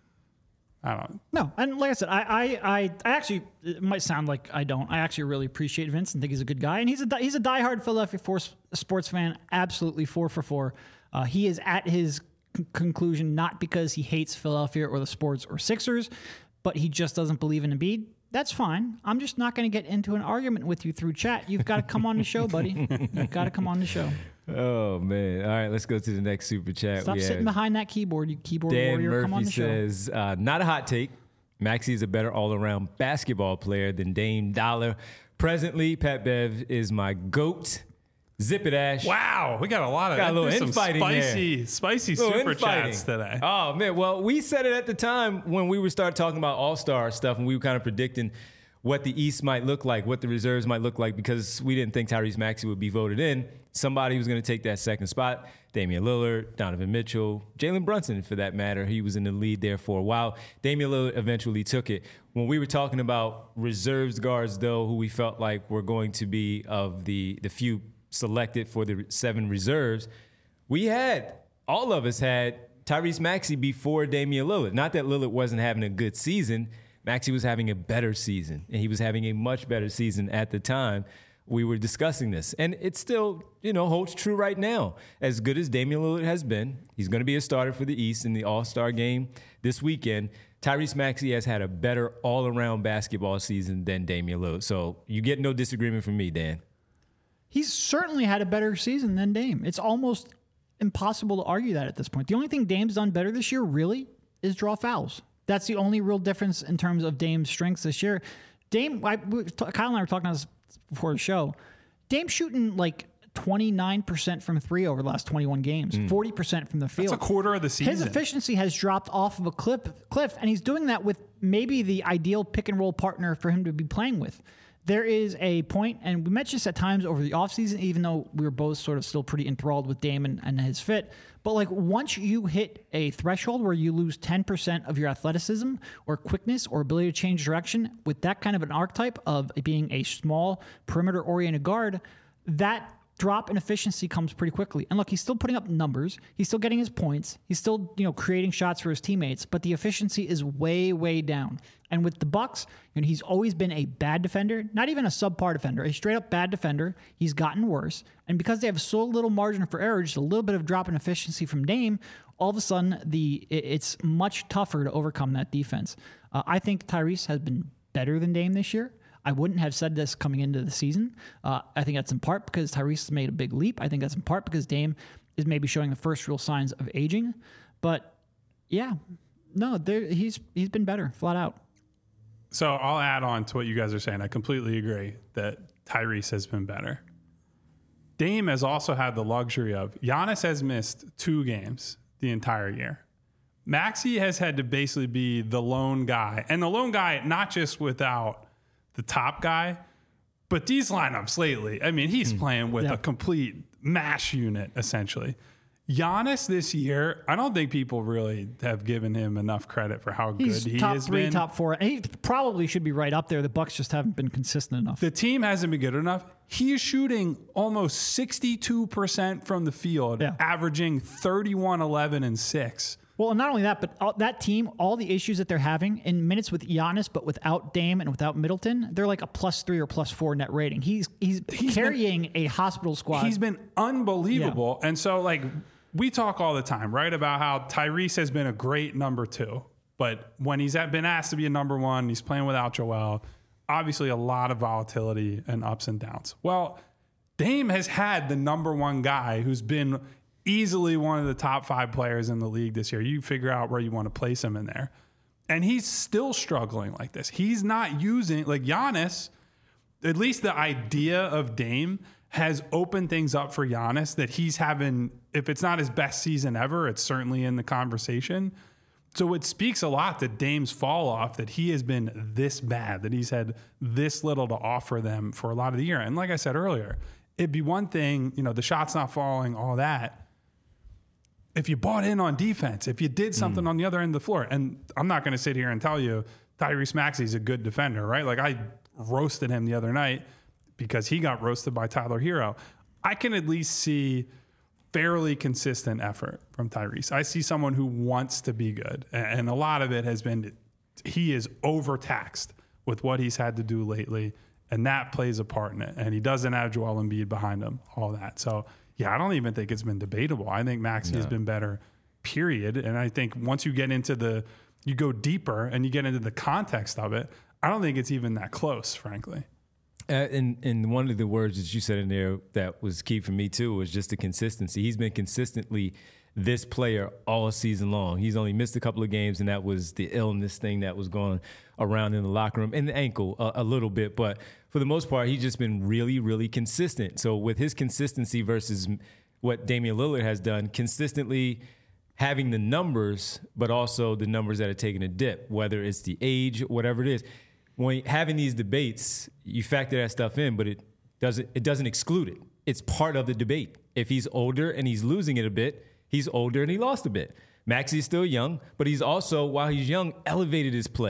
I don't No, and like I said, I, I, I, I actually, it might sound like I don't. I actually really appreciate Vince and think he's a good guy, and he's a di- he's a diehard Philadelphia force, sports fan. Absolutely four for four. Uh, he is at his c- conclusion not because he hates Philadelphia or the sports or Sixers, but he just doesn't believe in Embiid. That's fine. I'm just not going to get into an argument with you through chat. You've got to come on the show, buddy. You've got to come on the show. Oh man. All right, let's go to the next super chat. Stop we sitting have behind that keyboard, you keyboard Dan warrior. Come on Murphy the show. says, uh, not a hot take. Maxey is a better all-around basketball player than Dame Dollar. Presently, Pat Bev is my GOAT. Zip it, Ash. Wow, we got a lot of Got a little there's some infighting there. spicy, spicy Little super infighting. chats today. Oh man, well, we said it at the time when we were start talking about All-Star stuff, and we were kind of predicting what the East might look like, what the reserves might look like, because we didn't think Tyrese Maxey would be voted in. Somebody was going to take that second spot. Damian Lillard, Donovan Mitchell, Jalen Brunson, for that matter. He was in the lead there for a while. Damian Lillard eventually took it. When we were talking about reserves guards, though, who we felt like were going to be of the, the few selected for the seven reserves, we had all of us had Tyrese Maxey before Damian Lillard. Not that Lillard wasn't having a good season. Maxey was having a better season, and he was having a much better season at the time we were discussing this. And it still, you know, holds true right now. As good as Damian Lillard has been, he's going to be a starter for the East in the All-Star game this weekend. Tyrese Maxey has had a better all-around basketball season than Damian Lillard. So you get no disagreement from me, Dan. He's certainly had a better season than Dame. It's almost impossible to argue that at this point. The only thing Dame's done better this year, really, is draw fouls. That's the only real difference in terms of Dame's strengths this year. Dame, I, Kyle and I were talking about this before the show. Dame's shooting like twenty-nine percent from three over the last twenty-one games, mm. forty percent from the field. That's a quarter of the season. His efficiency has dropped off of a cliff, cliff, and he's doing that with maybe the ideal pick and roll partner for him to be playing with. There is a point, and we mentioned this at times over the offseason, even though we were both sort of still pretty enthralled with Dame and, and his fit. But like once you hit a threshold where you lose ten percent of your athleticism or quickness or ability to change direction with that kind of an archetype of being a small perimeter-oriented guard, that drop in efficiency comes pretty quickly. And look, he's still putting up numbers. He's still getting his points. He's still, you know, creating shots for his teammates, but the efficiency is way, way down. And with the Bucks, you know, he's always been a bad defender, not even a subpar defender, a straight up bad defender. He's gotten worse. And because they have so little margin for error, just a little bit of drop in efficiency from Dame, all of a sudden the it's much tougher to overcome that defense. Uh, I think Tyrese has been better than Dame this year. I wouldn't have said this coming into the season. Uh, I think that's in part because Tyrese has made a big leap. I think that's in part because Dame is maybe showing the first real signs of aging. But yeah, no, there, he's he's been better, flat out. So I'll add on to what you guys are saying. I completely agree that Tyrese has been better. Dame has also had the luxury of Giannis has missed two games the entire year. Maxey has had to basically be the lone guy, and the lone guy not just without the top guy, but these lineups lately, I mean, he's mm. playing with yeah. a complete mash unit, essentially. Giannis this year, I don't think people really have given him enough credit for how he's good he top has three, been. top four. He probably should be right up there. The Bucks just haven't been consistent enough. The team hasn't been good enough. He is shooting almost sixty-two percent from the field, yeah. averaging thirty-one, eleven, and six. Well, and not only that, but all, that team, all the issues that they're having in minutes with Giannis, but without Dame and without Middleton, they're like a plus three or plus four net rating. He's he's, he's carrying been, a hospital squad. He's been unbelievable. Yeah. And so, like, we talk all the time, right, about how Tyrese has been a great number two. But when he's been asked to be a number one, he's playing without Joel. Obviously, a lot of volatility and ups and downs. Well, Dame has had the number one guy who's been easily one of the top five players in the league this year. You figure out where you want to place him in there. And he's still struggling like this. He's not using, like Giannis, at least the idea of Dame has opened things up for Giannis that he's having, if it's not his best season ever, it's certainly in the conversation. So it speaks a lot to Dame's fall off that he has been this bad, that he's had this little to offer them for a lot of the year. And like I said earlier, it'd be one thing, you know, the shot's not falling, all that. If you bought in on defense, if you did something mm. on the other end of the floor, and I'm not going to sit here and tell you Tyrese Maxey's a good defender, right? Like I roasted him the other night because he got roasted by Tyler Hero. I can at least see fairly consistent effort from Tyrese. I see someone who wants to be good, and a lot of it has been he is overtaxed with what he's had to do lately, and that plays a part in it. And he doesn't have Joel Embiid behind him, all that. So yeah, I don't even think it's been debatable. I think Maxey no. has been better, period. And I think once you get into the, you go deeper and you get into the context of it, I don't think it's even that close, frankly. Uh, and, and one of the words that you said in there that was key for me too was just the consistency. He's been consistently this player all season long. He's only missed a couple of games, and that was the illness thing that was going around in the locker room, and the ankle a, a little bit. But for the most part, he's just been really, really consistent. So with his consistency versus what Damian Lillard has done, consistently having the numbers, but also the numbers that are taking a dip, whether it's the age, whatever it is. When having these debates, you factor that stuff in, but it doesn't it doesn't exclude it. It's part of the debate. If he's older and he's losing it a bit, he's older and he lost a bit. Maxey's still young, but he's also, while he's young, elevated his play.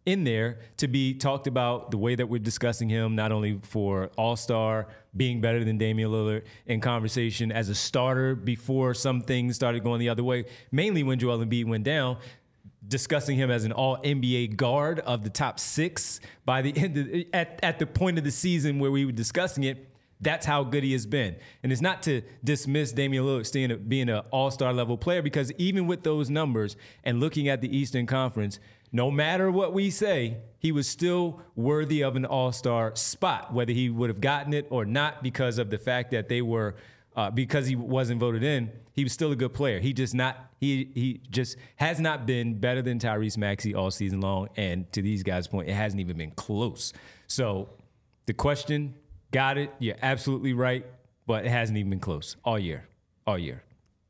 in there to be talked about the way that we're discussing him, not only for All-Star, being better than Damian Lillard in conversation as a starter before some things started going the other way, mainly when Joel Embiid went down, discussing him as an all N B A guard of the top six by the end of, at, at the point of the season where we were discussing it. That's how good he has been. And it's not to dismiss Damian Lillard being an all-star level player, because even with those numbers and looking at the Eastern Conference, no matter what we say, he was still worthy of an all-star spot, whether he would have gotten it or not because of the fact that they were, uh, because he wasn't voted in, he was still a good player. He just not, he he just has not been better than Tyrese Maxey all season long. And to these guys' point, it hasn't even been close. So the question, got it. You're absolutely right, but it hasn't even been close all year, all year.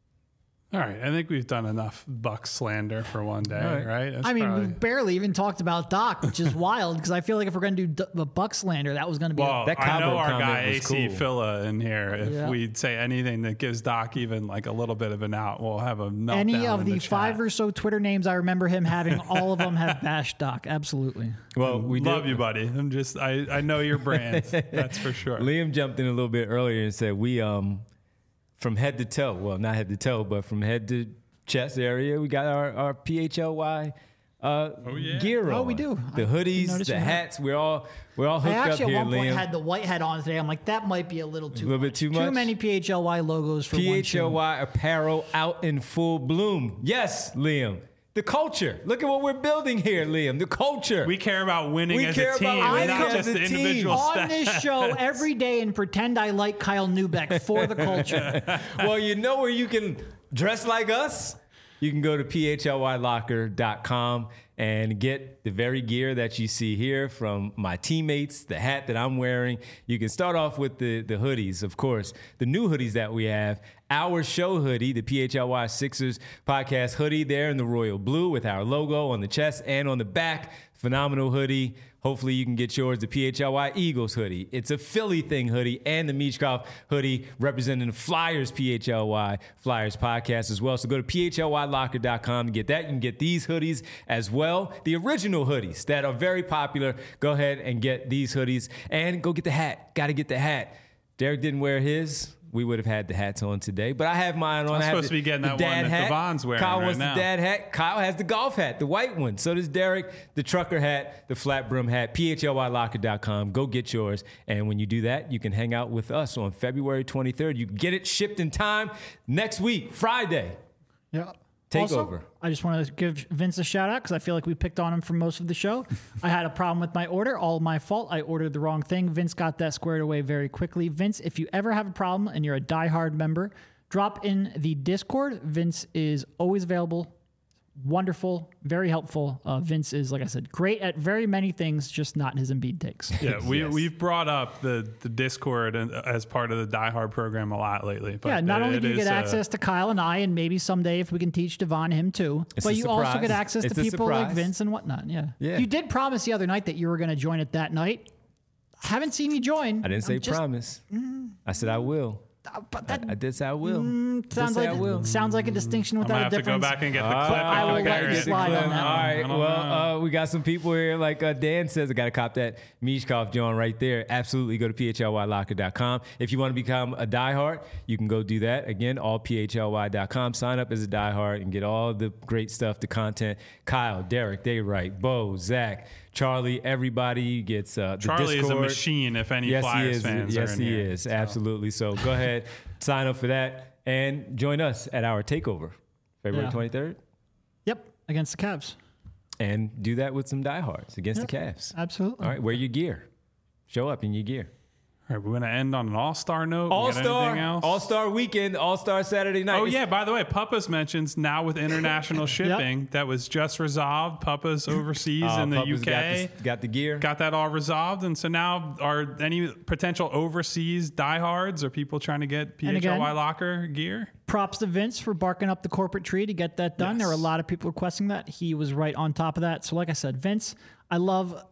All right, I think we've done enough Buck slander for one day, right? right? That's I mean, probably... we barely even talked about Doc, which is wild because I feel like if we're going to do the Buck slander, that was going to be. Well, a- that I know Cabo our comment guy was A C cool. Phila in here. If Yeah. we say anything that gives Doc even like a little bit of an out, we'll have a meltdown. Any of in the, the five chat. or so Twitter names I remember him having, all of them have bashed Doc. Absolutely. Well, we love did, you, buddy. I'm just, I, I know your brand. That's for sure. Liam jumped in a little bit earlier and said we, um, from head to toe, well, not head to toe, but from head to chest area, we got our, our P H L Y uh, Oh, yeah. gear on. Oh, we do. The I hoodies, didn't notice the you had- hats. We're all we're all I hooked up actually here, at one point Liam. had the white hat on today. I'm like, that might be a little too A little much. bit too much? Too many P H L Y logos for P one H show. L Y apparel out in full bloom. Yes, Liam. The culture. Look at what we're building here, Liam. The culture. We care about winning We as care a team, about winning not as just a the team. individual On stats. this show every day and pretend I like Kyle Newbeck for the culture. Well, you know where you can dress like us? You can go to P H L Y locker dot com and get the very gear that you see here from my teammates, the hat that I'm wearing. You can start off with the, the hoodies, of course, the new hoodies that we have. Our show hoodie, the P H L Y Sixers podcast hoodie there in the royal blue with our logo on the chest and on the back. Phenomenal hoodie. Hopefully you can get yours, the P H L Y Eagles hoodie. It's a Philly thing hoodie and the Michkov hoodie representing the Flyers P H L Y Flyers podcast as well. So go to P H L Y locker dot com to get that. You can get these hoodies as well. The original hoodies that are very popular. Go ahead and get these hoodies and go get the hat. Got to get the hat. Derek didn't wear his. We would have had the hats on today, but I have mine on. I'm I have supposed the, to be getting the that dad one that hat. Devon's wearing Kyle right wants now. the dad hat. Kyle has the golf hat, the white one. So does Derek, the trucker hat, the flat brim hat. P H L Y locker dot com. Go get yours. And when you do that, you can hang out with us on February twenty-third. You can get it shipped in time next week, Friday. Yeah. Take also, over. I just want to give Vince a shout out because I feel like we picked on him for most of the show. I had a problem with my order, all my fault. I ordered the wrong thing. Vince got that squared away very quickly. Vince, if you ever have a problem and you're a diehard member, drop in the Discord. Vince is always available. Wonderful, very helpful. Uh, Vince is, like I said, great at very many things, just not his Embiid takes. Yeah, we, Yes. we've brought up the, the Discord and- as part of the Die Hard program a lot lately. But Yeah, not it- only do you it get is, uh, access to Kyle and I, and maybe someday if we can teach Devon him too, It's but a you also surprise. get access It's to a people like surprise. Vince and whatnot. Yeah. Yeah. You did promise the other night that you were going to join it that night. Haven't seen you join. I didn't say I'm just- promise. I said I will. uh, But I, that I did say I will. mm, sounds say like I will. sounds like a distinction I without might a have to go difference. back and get the All clip. right, I will and let compare you it. slide on that All right. I don't Well, know. uh, we got some people here, like uh, Dan says, I got to cop that Mishkov John right there. Absolutely. Go to P H L Y locker dot com. If you want to become a diehard, you can go do that. Again, all P H L Y dot com. Sign up as a diehard and get all the great stuff, the content. Kyle, Derek, they right. Bo, Zach, Charlie, everybody gets uh, the Charlie is a Discord. machine if any Yes, he Flyers is. fans Yes, are in he here. is. Absolutely. So go ahead, sign up for that, and join us at our takeover, February Yeah. twenty-third. Yep, against the Cavs. And do that with some diehards against Yep. the Cavs. Absolutely. All right, wear your gear. Show up in your gear. All right, we're going to end on an all-star note. We got All anything Star, else? All Star Weekend, All Star Saturday night. Oh, It's- yeah. By the way, Puppa's mentions now with international shipping that was just resolved. Puppa's overseas uh, in the Puppa's U got K. the, got the gear. Got that all resolved. And so now are any potential overseas diehards or people trying to get P And H L Y again- locker gear? Props to Vince for barking up the corporate tree to get that done. There were a Yes. lot of people requesting that. He was right on top of that. So, like I said, Vince, I love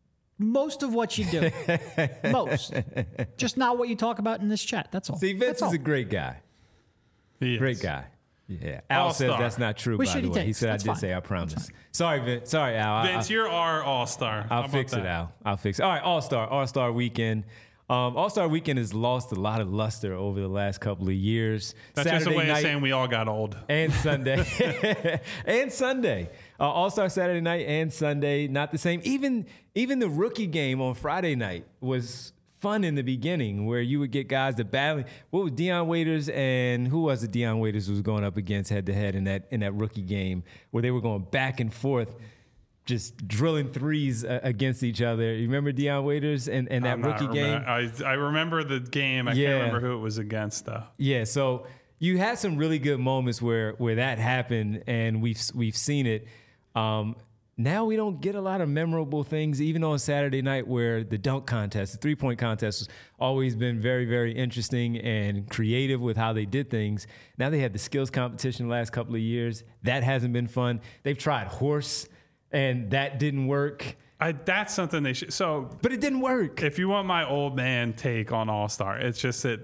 most of what you do. Most. Just not what you talk about in this chat. That's all. See, Vince That's is all. a great guy. He is. Great guy. Yeah, Al says All-star. that's not true. Which by should the he way, take? he said That's I did fine. say I promise. Sorry, Vince. Sorry, Al. I- Vince, I, you're our all-star. How I'll about fix it, that? Al. I'll fix it. All right, All Star, All Star Weekend. Um, All Star Weekend has lost a lot of luster over the last couple of years. That's Saturday just a way night of saying we all got old. and Sunday and Sunday. Uh, All Star Saturday night and Sunday, not the same. Even even the rookie game on Friday night was fun in the beginning, where you would get guys that battling. What was Deion Waiters and who was it? Deion Waiters was going up against head to head in that in that rookie game, where they were going back and forth, just drilling threes uh, against each other. You remember Deion Waiters and, and that I'm not rookie game? remem- I, I remember the game. I Yeah. can't remember who it was against, though. Yeah, so you had some really good moments where where that happened, and we've we've seen it. Um, now we don't get a lot of memorable things, even on Saturday night, where the dunk contest, the three point contest, has always been very, very interesting and creative with how they did things. Now they had the skills competition the last couple of years. That hasn't been fun. They've tried horse, and that didn't work. I, that's something they should. So, But it didn't work. if you want my old man take on All Star, it's just that,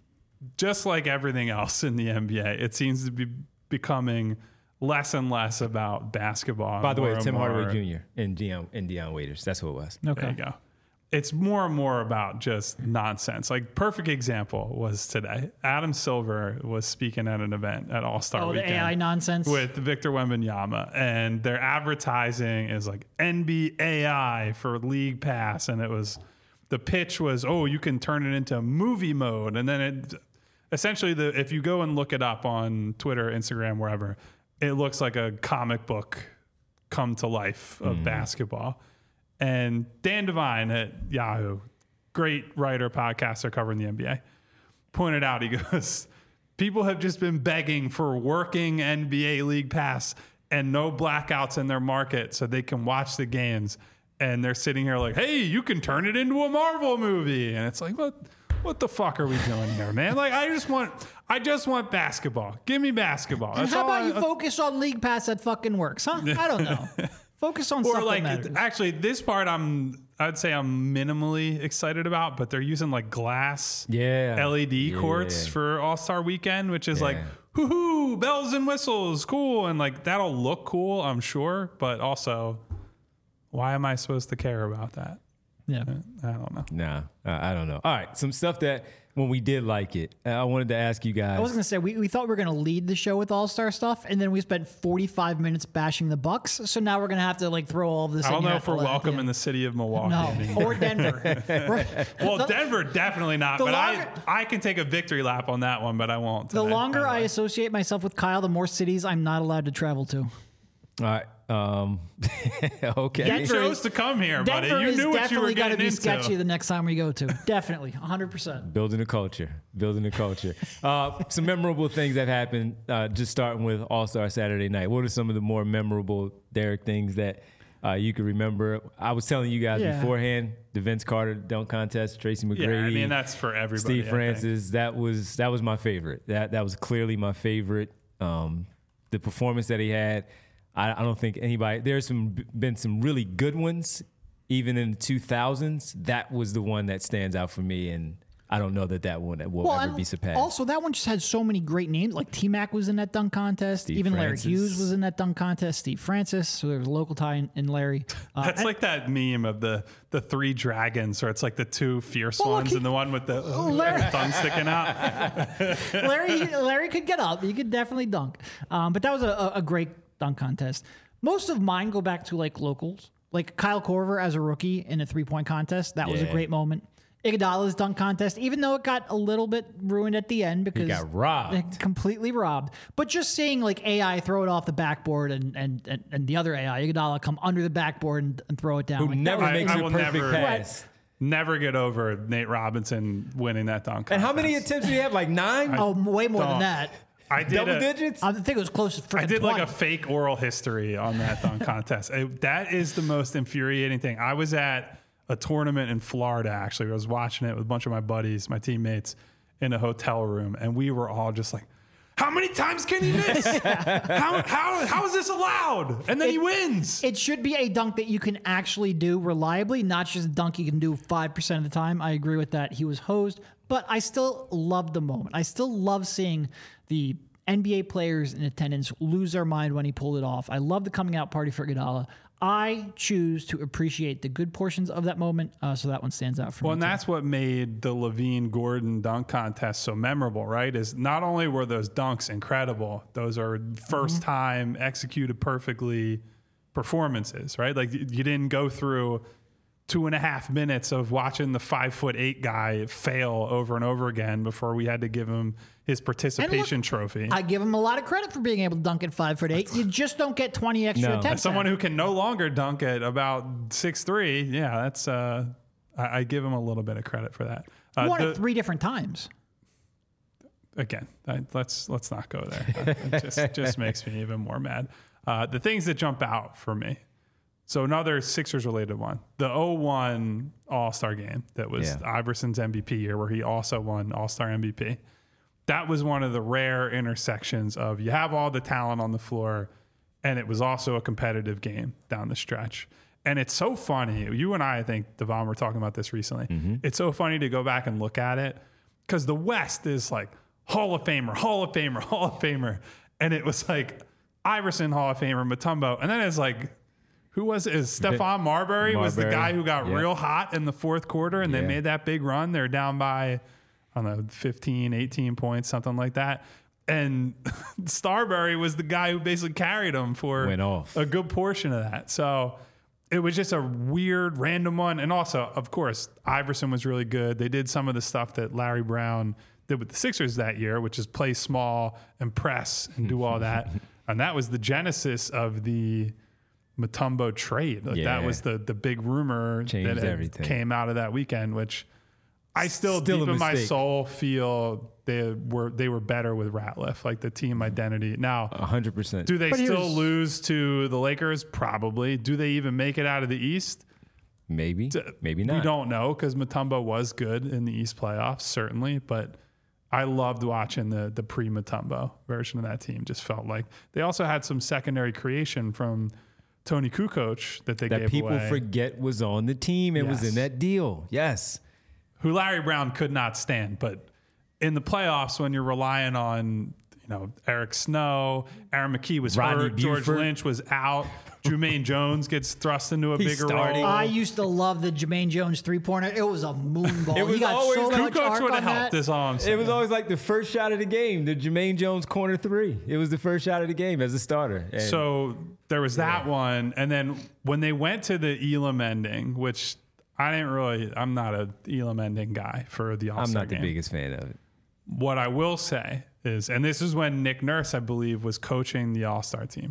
just like everything else in the N B A, it seems to be becoming less and less about basketball. By the way, more Tim and more- Hardaway Junior and Deion and Deion Waiters. That's what it was. There Okay. you go. It's more and more about just nonsense. Like, perfect example was today. Adam Silver was speaking at an event at All Star Oh, the Weekend. A I nonsense. With Victor Wembanyama, and their advertising is like N B A I for League Pass, and it was the pitch was, oh, you can turn it into movie mode, and then it essentially the if you go and look it up on Twitter, Instagram, wherever, it looks like a comic book come to life of basketball. And Dan Devine at Yahoo, great writer, podcaster covering the N B A, pointed out, he goes, people have just been begging for working N B A League Pass and no blackouts in their market so they can watch the games. And they're sitting here like, hey, you can turn it into a Marvel movie. And it's like, what what the fuck are we doing here, man? Like, I just want I just want basketball. Give me basketball. And That's how all about I- you focus on League Pass that fucking works, huh? I don't know. Focus on Or stuff like, that matters. actually, this part I'm I'd say I'm minimally excited about, but they're using like glass Yeah. L E D Yeah. courts for All Star Weekend, which is like, Yeah. hoo hoo, bells and whistles, cool, and like that'll look cool, I'm sure, but also, why am I supposed to care about that? Yeah. I don't know. Nah, I I don't know. All right, some stuff that when we did like it, I wanted to ask you guys. I was going to say, we, we thought we were going to lead the show with All-Star stuff, and then we spent forty-five minutes bashing the Bucks. So now we're going to have to like throw all of this I in don't here know at if we're the last- welcome yeah. in the city of Milwaukee. No, anymore. or Denver. We're- Well, the, Denver definitely not, the but longer- I I can take a victory lap on that one, but I won't. the today, longer by the I way. associate myself with Kyle, the more cities I'm not allowed to travel to. All right. Um, okay. Denver You chose is- to come here, buddy. Denver You is knew what you definitely were going to getting be into. sketchy the next time we go to. Definitely, one hundred percent. Building a culture. Building a culture. Uh, some memorable things that happened, uh, just starting with All-Star Saturday night. What are some of the more memorable, Derek, things that uh, you can remember? I was telling you guys Yeah. beforehand, the Vince Carter dunk contest, Tracy McGrady. Yeah, I mean that's for everybody. Steve I think. Francis. That was that was my favorite. That that was clearly my favorite. Um, the performance that he had. I, I don't think anybody. There's some been some really good ones, even in the two thousands. That was the one that stands out for me, and I don't know that that one will ever and be surpassed. also that one just had so many great names. Like T Mac was in that dunk contest. Steve Even Francis. Larry Hughes was in that dunk contest. Steve Francis. So there was a local tie in, in Larry. Uh, That's like that meme of the the three dragons, or it's like the two fierce Well, look, ones he- and the one with the Larry- tongue sticking out. Larry Larry could get up. He could definitely dunk. Um, but that was a, a, a great dunk contest. Most of mine go back to like locals, like Kyle Korver as a rookie in a three point contest. That was a Yeah. great moment. Iguodala's dunk contest, even though it got a little bit ruined at the end because got robbed. it- completely robbed. But just seeing like A I throw it off the backboard and and and, and the other A I, Iguodala, come under the backboard and, and throw it down. Who Like, that never was- makes I a will perfect never- pass. Never get over Nate Robinson winning that dunk. And how many contest. attempts did he have? Like nine? Oh, way more than Don't. that. I did Double a- digits? I think it was close to freaking I did like a twenty. fake oral history on that dunk contest. It- that is the most infuriating thing. I was at a tournament in Florida, actually. I was watching it with a bunch of my buddies, my teammates, in a hotel room, and we were all just like, how many times can he miss? how, how, how is this allowed? And then he wins. It should be a dunk that you can actually do reliably, not just a dunk you can do five percent of the time. I agree with that. He was hosed, but I still love the moment. I still love seeing the N B A players in attendance lose their mind when he pulled it off. I love the coming out party for Iguodala. I choose to appreciate the good portions of that moment, uh, so that one stands out for well, me. And too. that's what made the Levine Gordon dunk contest so memorable, right? Is not only were those dunks incredible, those are first Mm-hmm. time executed perfectly performances, right? Like you you didn't go through two and a half minutes of watching the five foot eight guy fail over and over again before we had to give him his participation look, trophy. I give him a lot of credit for being able to dunk at five foot eight. You just don't get twenty extra No. attempts. As someone at it. who can no longer dunk at about six three, yeah, that's uh, I, I give him a little bit of credit for that. Uh, won the- it three different times. again, I, let's let's not go there. It just just makes me even more mad. Uh, the things that jump out for me. So another Sixers related one, the oh one All-Star game that was Yeah. Iverson's M V P year, where he also won All-Star M V P. That was one of the rare intersections of you have all the talent on the floor, and it was also a competitive game down the stretch. And it's so funny. You and I, I think, Devon, were talking about this recently. It's so funny to go back and look at it because the West is like Hall of Famer, Hall of Famer, Hall of Famer. And it was like Iverson, Hall of Famer, Mutombo. And then it's like, who was it? Is Stephon Marbury, was the Marbury. guy who got Yeah. real hot in the fourth quarter and they Yeah. made that big run. They're down by, I don't know, fifteen, eighteen points, something like that. And Starbury was the guy who basically carried them for Went off. a good portion of that. So it was just a weird, random one. And also, of course, Iverson was really good. They did some of the stuff that Larry Brown did with the Sixers that year, which is play small and press and do all that. And that was the genesis of the Mutombo trade. Like Yeah. that was the the big rumor Changed that had everything. came out of that weekend, which I still, Still deep a in my mistake. soul feel they were they were better with Ratliff, like the team identity. Now, A hundred percent. do they But still here's- lose to the Lakers? Probably. Do they even make it out of the East? Maybe, maybe not. We don't know because Mutombo was good in the East playoffs, certainly. But I loved watching the the pre Mutombo version of that team. Just felt like they also had some secondary creation from Tony Kukoc that they that gave people away, forget was on the team and was Yes. in that deal. Yes. who Larry Brown could not stand. But in the playoffs, when you're relying on, you know, Eric Snow, Aaron McKee was Rodney hurt, George Buford. Lynch was out, Jermaine Jones gets thrust into a He's bigger starting. role. I used to love the Jermaine Jones three pointer. It was a moonball. It was he got always so much Kukoc arc would on have helped. that. Is all I'm saying. It was always like the first shot of the game, the Jermaine Jones corner three. It was the first shot of the game as a starter. And So there was that one, and then when they went to the Elam ending, which I didn't really, I'm not a Elam ending guy for the I'm All-Star not the game. biggest fan of it. What I will say is, and this is when Nick Nurse, I believe, was coaching the All-Star team.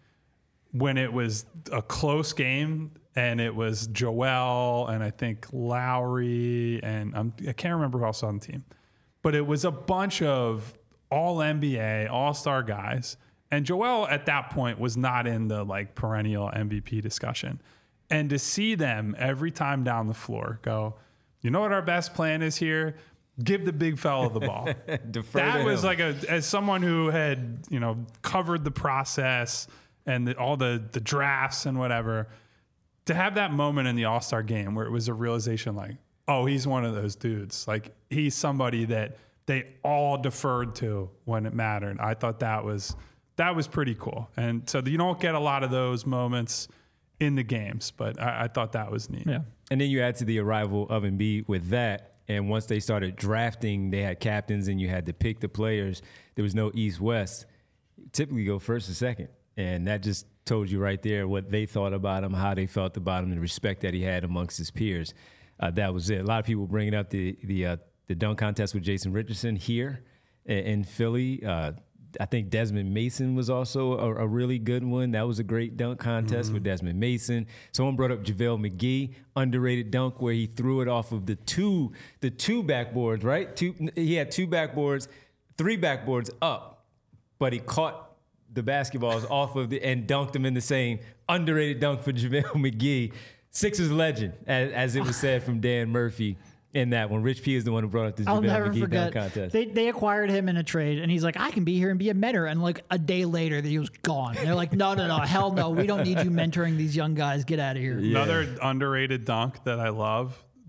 When it was a close game, and it was Joel and I think Lowry, and I'm, I can't remember who else on the team, but it was a bunch of all N B A, All-Star guys. And Joel at that point was not in the like perennial M V P discussion. And to see them every time down the floor go, you know what our best plan is here? Give the big fella the ball. Defer That to was him. like a, as someone who had, you know, covered the process and the, all the, the drafts and whatever, to have that moment in the All-Star game where it was a realization like, oh, he's one of those dudes. Like he's somebody that they all deferred to when it mattered. I thought that was, that was pretty cool. And so you don't get a lot of those moments in the games, but I, I thought that was neat. Yeah. And then you add to the arrival of Embiid with that. And once they started drafting, they had captains and you had to pick the players. There was no East-West. Typically go first or second. And that just told you right there what they thought about him, how they felt about him, and the respect that he had amongst his peers. Uh, that was it. A lot of people bringing up the the uh, the dunk contest with Jason Richardson here in, in Philly. Uh, I think Desmond Mason was also a, a really good one. That was a great dunk contest Mm-hmm. with Desmond Mason. Someone brought up JaVale McGee, underrated dunk where he threw it off of the two the two backboards, right? Two he had two backboards, three backboards up, but he caught the basketballs off of the and dunked them in the same underrated dunk for JaVale McGee. Sixers legend, as, as it was said from Dan Murphy in that one. Rich P is the one who brought up the I'll JaVale never McGee forget. dunk contest. They they acquired him in a trade, and he's like, I can be here and be a mentor. And like a day later, he was gone. They're like, no, no, no, hell no. We don't need you mentoring these young guys. Get out of here. Another underrated dunk that I love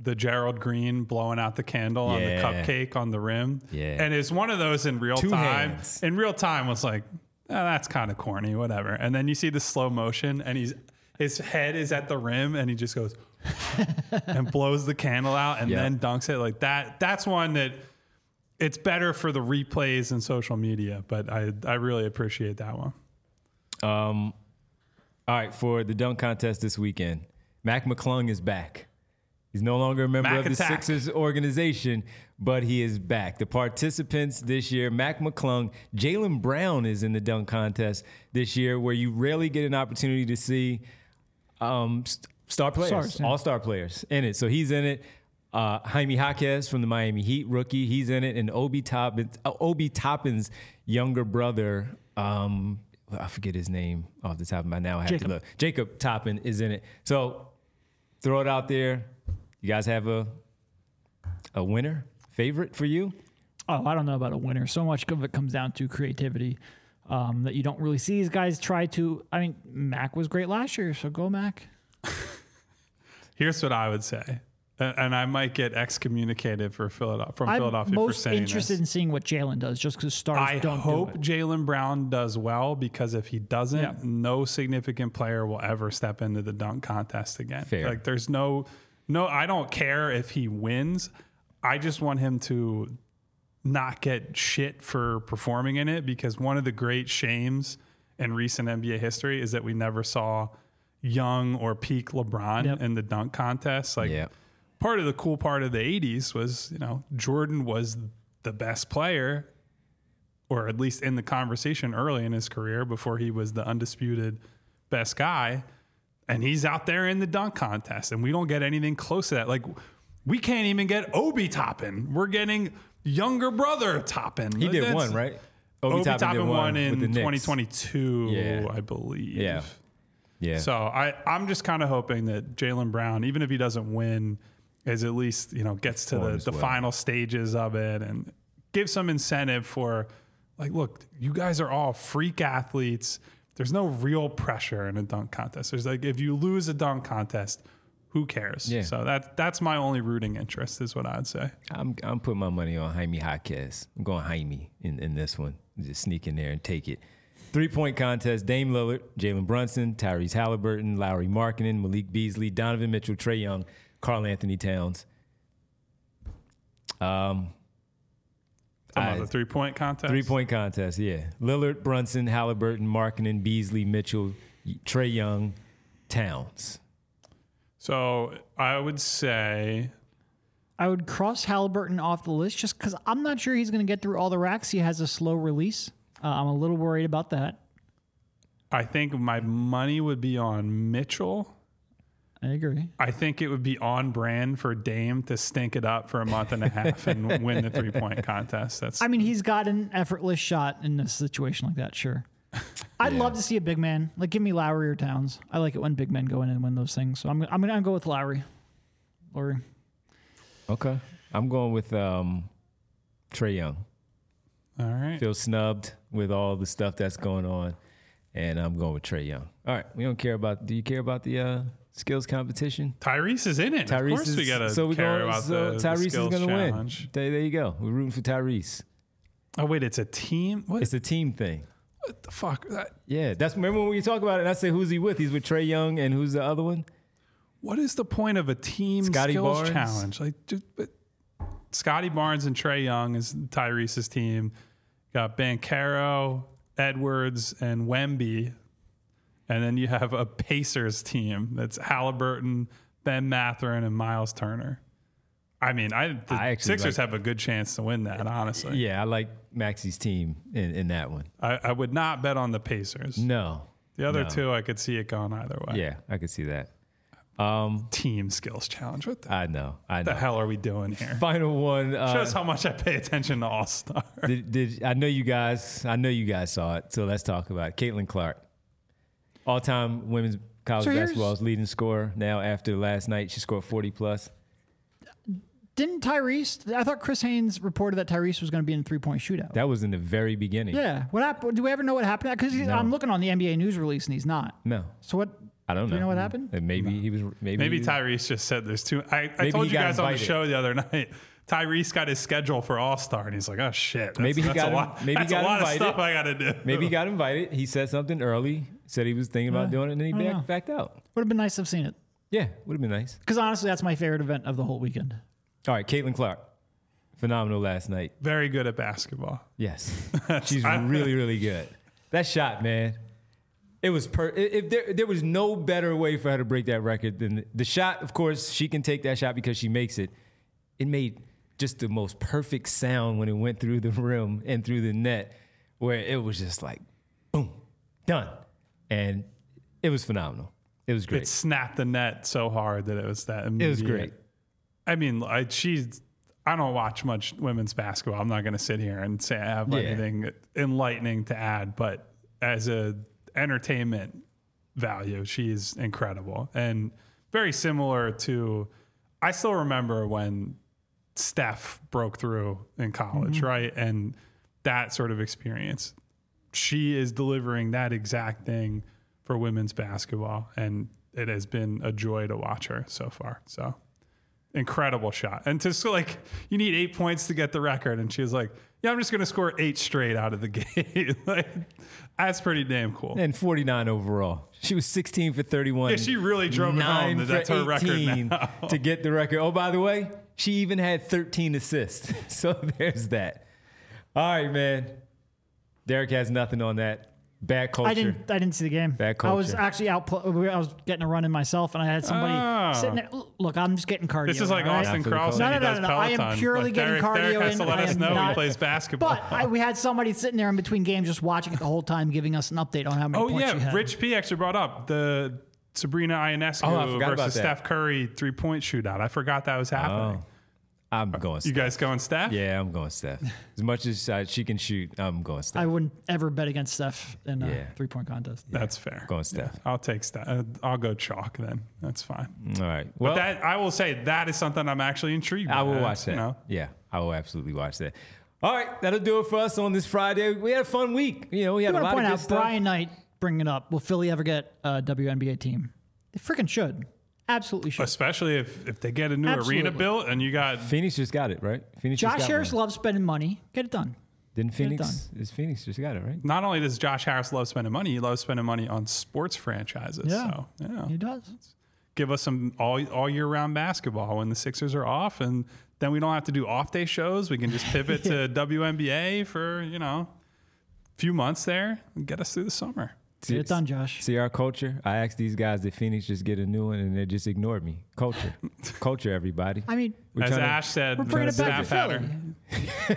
the Gerald Green blowing out the candle on the Yeah. cupcake on the rim. Yeah. And it's one of those in real Two time. hands. In real time was like, oh, that's kind of corny, whatever. And then you see the slow motion and he's his head is at the rim and he just goes and blows the candle out and Yeah. then dunks it like that. That's one that it's better for the replays and social media, but I I really appreciate that one. Um, all right, for the dunk contest this weekend, Mac McClung is back. He's no longer a member Mac of the attack. Sixers organization, but he is back. The participants this year, Mac McClung, Jaylen Brown is in the dunk contest this year, where you rarely get an opportunity to see um, st- star players, Stars, yeah. all-star players in it. So he's in it. Uh, Jaime Jaquez from the Miami Heat, rookie, he's in it. And Obi Toppin's, uh, Obi Toppin's younger brother, um, I forget his name off the top of my now. I have Jacob. to look. Jacob Toppin is in it. So throw it out there. You guys have a a winner, favorite for you? Oh, I don't know about a winner. So much of it comes down to creativity um, that you don't really see these guys try to. I mean, Mac was great last year, so go Mac. Here's what I would say. And and I might get excommunicated for Philadelphia, from I'm Philadelphia most for saying interested this. in seeing what Jalen does, just because stars I don't hope do it. Jaylen Brown does well, because if he doesn't, Yeah. no significant player will ever step into the dunk contest again. Fair. Like there's no, no, I don't care if he wins. I just want him to not get shit for performing in it, because one of the great shames in recent N B A history is that we never saw young or peak LeBron Yep. in the dunk contest. Like, Yeah. part of the cool part of the eighties was, you know, Jordan was the best player, or at least in the conversation early in his career before he was the undisputed best guy. And he's out there in the dunk contest, and we don't get anything close to that. Like, we can't even get Obi Toppin. We're getting younger brother Toppin. He did That's- one, right? Obi, Toppin Toppin, did won with the in Knicks. twenty twenty-two, Yeah. I believe. Yeah. Yeah. So I, I'm just kind of hoping that Jaylen Brown, even if he doesn't win, is at least, you know, gets to the, Performs the well. final stages of it and gives some incentive for, like, look, you guys are all freak athletes. There's no real pressure in a dunk contest. There's like, if you lose a dunk contest, who cares? Yeah. So that that's my only rooting interest, is what I'd say. I'm I'm putting my money on Jaime Jaquez. I'm going Jaime in, in this one. Just sneak in there and take it. Three-point contest, Dame Lillard, Jalen Brunson, Tyrese Halliburton, Lowry Markkinen, Malik Beasley, Donovan Mitchell, Trae Young, Karl Anthony Towns. Um, Talking I- about the three-point contest. Three-point contest, yeah. Lillard, Brunson, Halliburton, Markkinen, Beasley, Mitchell, Trae Young, Towns. So I would say I would cross Halliburton off the list just because I'm not sure he's going to get through all the racks. He has a slow release. Uh, I'm a little worried about that. I think my money would be on Mitchell. I agree. I think it would be on brand for Dame to stink it up for a month and a half and win the three point contest. That's I mean, he's got an effortless shot in a situation like that, sure. I'd Yeah. love to see a big man. Like, give me Lowry or Towns. I like it when big men go in and win those things. So I'm, I'm going to go with Lowry. Lowry. Okay. I'm going with um, Trae Young. all right. Feel snubbed with all the stuff that's going on, and I'm going with Trae Young. All right. We don't care about, do you care about the uh, skills competition? Tyrese is in it. Tyrese of course, is, we gotta so we care going, about so the, Tyrese the is skills going to win. challenge. There, there you go. We're rooting for Tyrese. Oh wait, it's a team. What, It's a team thing. what the fuck? That, Yeah, that's remember when we talk about it. And I say who's he with? He's with Trae Young, and who's the other one? what is the point of a team Scotty skills Barnes? challenge? Like, just, but Scotty Barnes and Trae Young is Tyrese's team. Got Banchero, Edwards, and Wemby. And then you have a Pacers team that's Halliburton, Ben Mathurin, and Miles Turner. I mean, I the I actually Sixers like- have a good chance to win that, honestly. Yeah, I like Maxey's team in, in that one. I, I would not bet on the Pacers. No. The other no. two, I could see it going either way. Yeah, I could see that. Um, Team skills challenge. What the, I know. I know. the hell are we doing here? Final one. Uh, Shows how much I pay attention to All Star. did, did I know you guys? I know you guys saw it. So let's talk about it. Caitlin Clark, all-time women's college So here's- basketball's leading scorer. Now after last night, she scored forty plus. Didn't Tyrese? I thought Chris Haynes reported that Tyrese was going to be in a three-point shootout. That was in the very beginning. Yeah. What happened? Do we ever know what happened? Because No. I'm looking on the N B A news release and he's not. No. So what? I don't know. Do you know what happened? And maybe he was. Maybe Maybe he was, Tyrese just said there's two. I, I Maybe told he you got guys on the invited. show the other night. Tyrese got his schedule for All Star, and he's like, "Oh shit, that's, Maybe he that's got a him- lot. maybe he that's got a lot invited. of stuff I got to do." Maybe he got invited. He said something early. Said he was thinking about doing it, and then he I don't back, know. backed out. Would have been nice to have seen it. Yeah, would have been nice. Because honestly, that's my favorite event of the whole weekend. All right, Caitlin Clark, phenomenal last night. Very good at basketball. Yes, she's really, really good. That shot, man. It was per. If there, there was no better way for her to break that record than the, the shot. Of course, she can take that shot because she makes it. It made just the most perfect sound when it went through the rim and through the net, where it was just like, boom, done, and it was phenomenal. It was great. It snapped the net so hard that it was that immediate. It was great. I mean, I, she's. I don't watch much women's basketball. I'm not going to sit here and say I have Yeah. anything enlightening to add, but as a entertainment value, she's incredible and very similar to. I still remember when Steph broke through in college, Mm-hmm. right? And that sort of experience. She is delivering that exact thing for women's basketball, and it has been a joy to watch her so far. So incredible shot. And to so like, you need eight points to get the record. And she was like, yeah, I'm just going to score eight straight out of the game. Like, that's pretty damn cool. And forty-nine overall. She was sixteen for thirty-one. Yeah, she really drove it nine home that that's for her record eighteen now. to get the record. Oh, by the way, she even had thirteen assists. So there's that. All right, man. Derek has nothing on that. Bad culture. I didn't. I didn't see the game. Bad I was culture. actually out. pl- I was getting a run in myself, and I had somebody Ah. sitting there. Look, I'm just getting cardio. This is like all right? Austin After the Cross. culture. when No, he no, does no, no, I am Peloton. purely Like, getting Derek, cardio Derek has in. to let I us am know he not- plays basketball. But I, we had somebody sitting there in between games just watching it the whole time, giving us an update on how many Oh points she yeah, had. Rich P actually brought up the Sabrina Ionescu Oh, I forgot about versus that. Steph Curry three point shootout. I forgot that was happening. Oh, I'm going You Steph. guys going Steph? Yeah, I'm going Steph. As much as uh, she can shoot, I'm going Steph. I wouldn't ever bet against Steph in a Yeah. three-point contest. That's fair. Going Steph. Yeah, I'll take Steph. Uh, I'll go chalk then. That's fine. All right. Well, But that I will say that is something I'm actually intrigued. I by. will watch that. You know, Yeah, I will absolutely watch that. All right, that'll do it for us on this Friday. We had a fun week. You know, we I had a want lot to point of good out stuff. Brian Knight bringing it up. Will Philly ever get a W N B A team? They freaking should. Absolutely should. especially if if they get a new Absolutely. arena built and you got Phoenix just got it, right? Phoenix just Josh got Harris one. loves spending money. Get it done. Didn't it Phoenix? Is Phoenix just got it, right? not only does Josh Harris love spending money, he loves spending money on sports franchises. Yeah. So yeah, He does. give us some all all year round basketball when the Sixers are off, and then we don't have to do off day shows. We can just pivot to W N B A for you know a few months there and get us through the summer. Get it done, Josh. See our culture? I asked these guys did Phoenix just get a new one, and they just ignored me. Culture. Culture, everybody. I mean, We're As trying to- Ash said, we're bringing it back to snap Philly.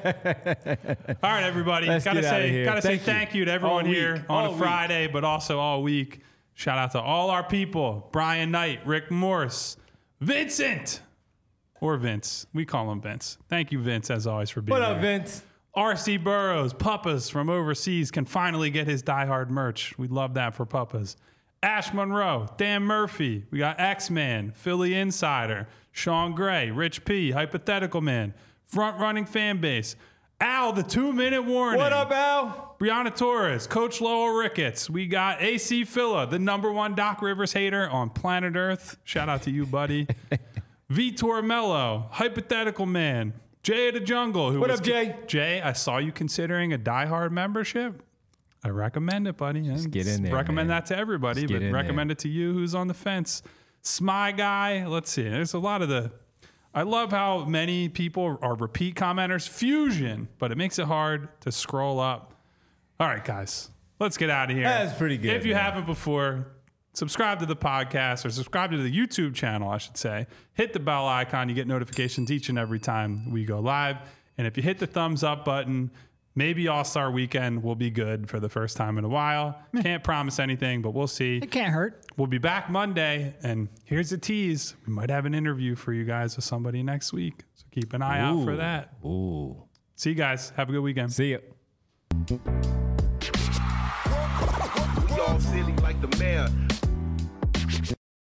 at her. All right, everybody. Let's gotta get outta say, here. gotta Thank say you. thank you to everyone All here week. on All a week. Friday, but also all week. Shout out to all our people: Brian Knight, Rick Morse, Vincent, or Vince. We call him Vince. Thank you, Vince, as always, for being What up, here. Vince? R C Burrows, Puppas from overseas can finally get his Die Hard merch. We'd love that for Puppas. Ash Monroe, Dan Murphy. We got X-Man, Philly Insider, Sean Gray, Rich P, Hypothetical Man, Front Running Fan Base, Al, the two-minute warning. What up, Al? Brianna Torres, Coach Lowell Ricketts. We got A C Philla, the number one Doc Rivers hater on planet Earth. Shout out to you, buddy. Vitor Mello, Hypothetical Man, Jay of the Jungle. Who What was up, Jay? Jay, I saw you considering a Die Hard membership. I recommend it, buddy. Just get in there, Recommend man. that to everybody, Just get but in recommend there. it to you who's on the fence. Smy Guy. Let's see. There's a lot of the. I love how many people are repeat commenters. Fusion, but it makes it hard to scroll up. All right, guys, let's get out of here. That's pretty good, If you man. haven't before, subscribe to the podcast or subscribe to the YouTube channel, I should say. Hit the bell icon. You get notifications each and every time we go live. And if you hit the thumbs up button, maybe All-Star Weekend will be good for the first time in a while. Can't promise anything, but we'll see. It can't hurt. We'll be back Monday, and here's a tease. We might have an interview for you guys with somebody next week. So keep an eye out for Ooh. that. Ooh. See you guys. Have a good weekend. See ya. We all silly like the mayor.